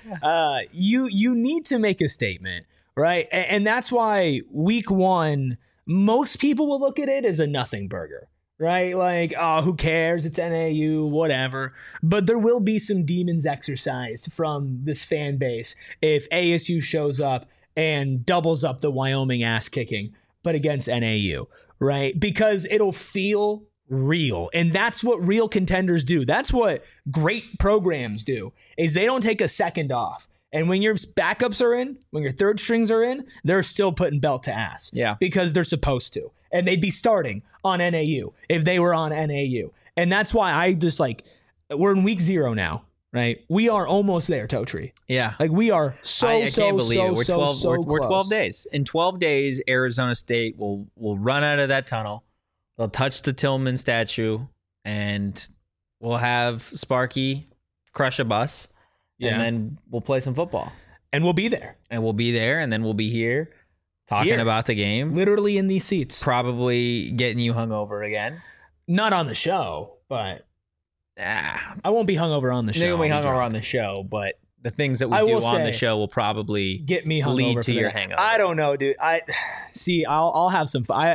You need to make a statement, right? And that's why week 1, most people will look at it as a nothing burger. Right? Like, oh, who cares? It's NAU, whatever. But there will be some demons exercised from this fan base if ASU shows up and doubles up the Wyoming ass kicking, but against NAU, right? Because it'll feel real. And that's what real contenders do. That's what great programs do, is they don't take a second off. And when your backups are in, when your third strings are in, they're still putting belt to ass. Yeah. Because they're supposed to. and they'd be starting on NAU if they were on NAU. And that's why I just like, we're in week 0 now, right? We are almost there, Totri. Yeah. Like we are I can't believe it. We're 12. We're 12 close. days. In 12 days, Arizona State will run out of that tunnel. They'll touch the Tillman statue, and we'll have Sparky crush a bus, and then we'll play some football. And we'll be there. And then we'll be here talking about the game. Literally in these seats. Probably getting you hungover again. Not on the show, but I won't be hungover on the show. You'll be hungover on the show, but the things that we do on the show will probably get me hungover lead to your hangover. I don't know, dude. I'll have some fun.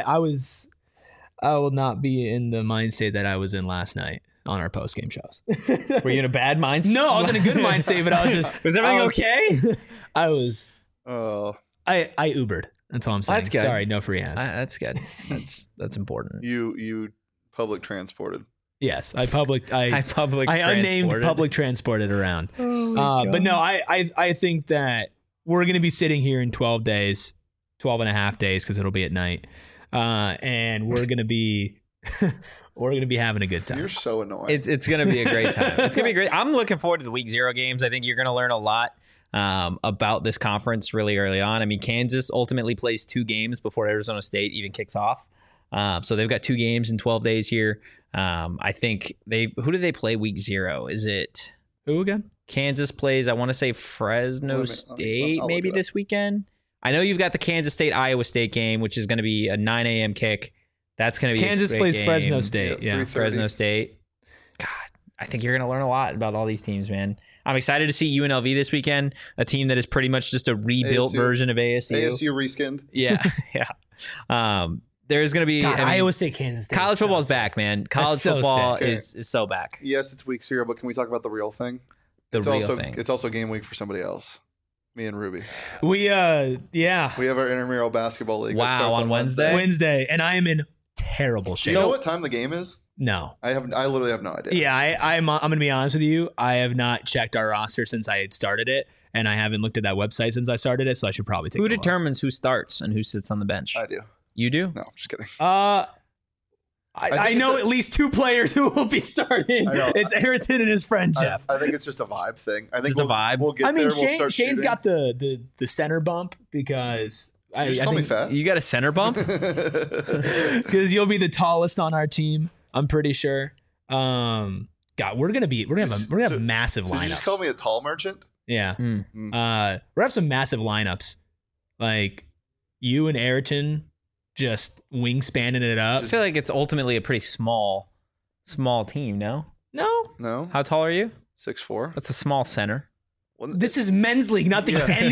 I will not be in the mind state that I was in last night on our post game shows. Were you in a bad mind state? No, I was in a good mind state, but I was just. Was everything okay? I was. Oh, I Ubered. That's all I'm saying. That's good. Sorry, no free ads. That's good. That's important. you public transported. Yes, I unnamed public transported around. But no, I think that we're going to be sitting here in 12 days, 12 and a half days, because it'll be at night. And we're going to be having a good time. You're so annoying. It's going to be a great time. It's going to be great. I'm looking forward to the week 0 games. I think you're going to learn a lot about this conference really early on. I mean, Kansas ultimately plays 2 games before Arizona State even kicks off. So they've got 2 games in 12 days here. I think who do they play week 0? Is it who again? Kansas plays, I want to say Fresno State maybe this weekend. I know you've got the Kansas State Iowa State game, which is going to be a 9 a.m. kick. That's going to be Kansas plays game. Fresno State. Yeah, Fresno State. God, I think you're going to learn a lot about all these teams, man. I'm excited to see UNLV this weekend, a team that is pretty much just a rebuilt version of ASU. ASU reskinned. Yeah, yeah. There's going to be Iowa State, Kansas State. College football's back, man. College football is so back. Yes, it's week 0, but can we talk about the real thing? It's also game week for somebody else. Me and Ruby. We have our intramural basketball league. Wow, that starts on Wednesday. Wednesday, and I am in terrible shape. Do you know what time the game is? No, I literally have no idea. Yeah, I'm going to be honest with you. I have not checked our roster since I had started it, and I haven't looked at that website since I started it. So I should probably take. Who determines who starts and who sits on the bench? I do. You do? No, just kidding. I know at least 2 players who will be starting. It's Ayrton and his friend Jeff. I think it's just a vibe thing. I think just a vibe. We'll get there. We'll start Shane's shooting. got the center bump because I call me fat. You got a center bump because you'll be the tallest on our team. I'm pretty sure. God, we're gonna have massive lineups. Did you just call me a tall merchant? Yeah. We're gonna have some massive lineups, like you and Ayrton. Just wingspanning it up. I feel like it's ultimately a pretty small team, no? No. How tall are you? 6'4". That's a small center. Well, this is men's league, not the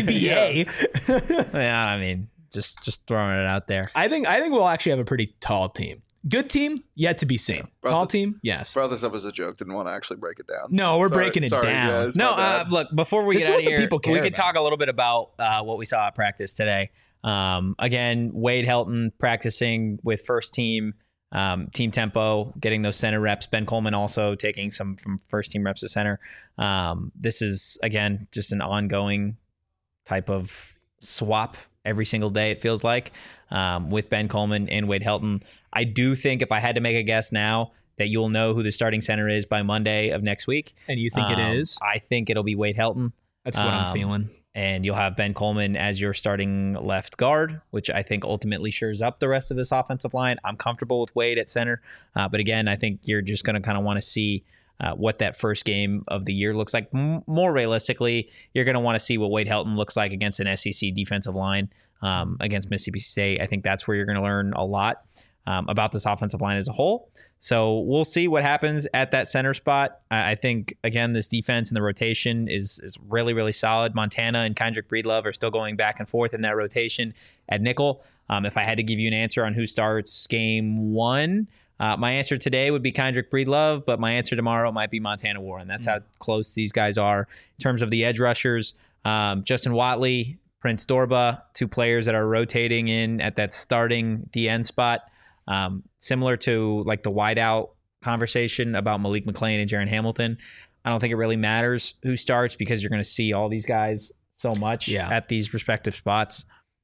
NBA. Yeah, I mean, just throwing it out there. I think we'll actually have a pretty tall team. Good team, yet to be seen. Tall team, yes. Brought this up as a joke. Didn't want to actually break it down. No, we're breaking it down. Guys, look, before we get out of here, we could talk a little bit about what we saw at practice today. Again, Wade Helton practicing with first team, team tempo, getting those center reps. Ben Coleman also taking some from first team reps at center. This is, again, just an ongoing type of swap every single day, it feels like, with Ben Coleman and Wade Helton. I do think if I had to make a guess now that you'll know who the starting center is by Monday of next week. And you think it is? I think it'll be Wade Helton. That's what I'm feeling. And you'll have Ben Coleman as your starting left guard, which I think ultimately shores up the rest of this offensive line. I'm comfortable with Wade at center. But again, I think you're just going to kind of want to see what that first game of the year looks like. More realistically, you're going to want to see what Wade Helton looks like against an SEC defensive line against Mississippi State. I think that's where you're going to learn a lot about this offensive line as a whole. So we'll see what happens at that center spot. I think, again, this defense and the rotation is really, really solid. Montana and Kendrick Breedlove are still going back and forth in that rotation at nickel. If I had to give you an answer on who starts game 1, my answer today would be Kendrick Breedlove, but my answer tomorrow might be Montana Warren. That's how close these guys are in terms of the edge rushers. Justin Watley, Prince Dorba, 2 players that are rotating in at that starting DN spot. Similar to like the wideout conversation about Malik McClain and Jaron Hamilton. I don't think it really matters who starts because you're going to see all these guys so much at these respective spots.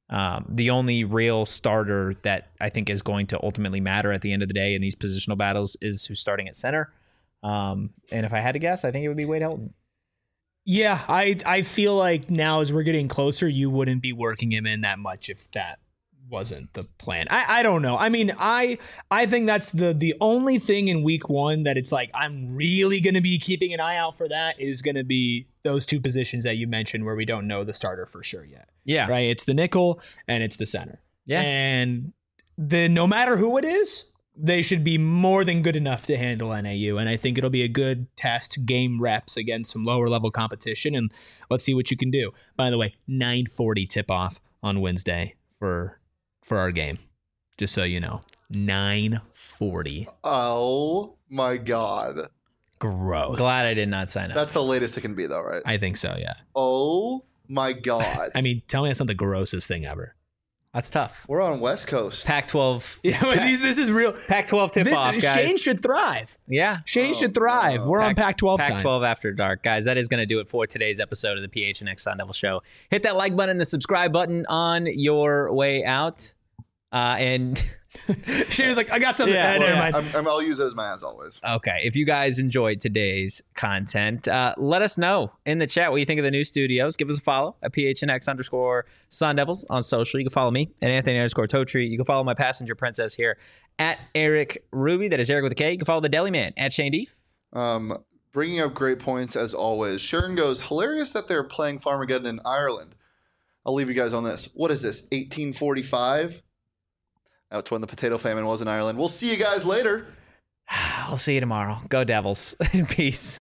The only real starter that I think is going to ultimately matter at the end of the day in these positional battles is who's starting at center. And if I had to guess, I think it would be Wade Helton. Yeah, I feel like now as we're getting closer, you wouldn't be working him in that much if that wasn't the plan. I don't know. I mean, I think that's the only thing in week 1 that it's like I'm really going to be keeping an eye out for that is going to be those two positions that you mentioned where we don't know the starter for sure yet. Yeah. Right? It's the nickel and it's the center. Yeah. And no matter who it is, they should be more than good enough to handle NAU. And I think it'll be a good test, game reps against some lower level competition. And let's see what you can do. By the way, 9:40 tip off on Wednesday for our game. Just so you know. 9:40. Oh my God. Gross. Glad I did not sign up. That's the latest it can be, though, right? I think so, yeah. Oh my God. I mean, tell me that's not the grossest thing ever. That's tough. We're on West Coast. Pac-12. Yeah, but this is real. Pac-12 tip-off, guys. Shane should thrive. Yeah. Shane should thrive. no. We're on Pac-12 time. Pac-12 After Dark. Guys, that is going to do it for today's episode of the PHNX Sun Devil Show. Hit that like button, the subscribe button on your way out. And Shane was like, I got something. Yeah, Never well, mind. I'll use it as my as always. okay, if you guys enjoyed today's content, let us know in the chat what you think of the new studios. Give us a follow at PHNX_Sun Devils on social. You can follow me at Anthony_Totri. You can follow my passenger princess here at Eric Ruby. That is Eric with a K. You can follow the Deli Man at Shane Deef. Bringing up great points as always. Sharon goes, hilarious that they're playing Farmageddon in Ireland. I'll leave you guys on this. What is this, 1845? That's when the potato famine was in Ireland. We'll see you guys later. I'll see you tomorrow. Go Devils. Peace.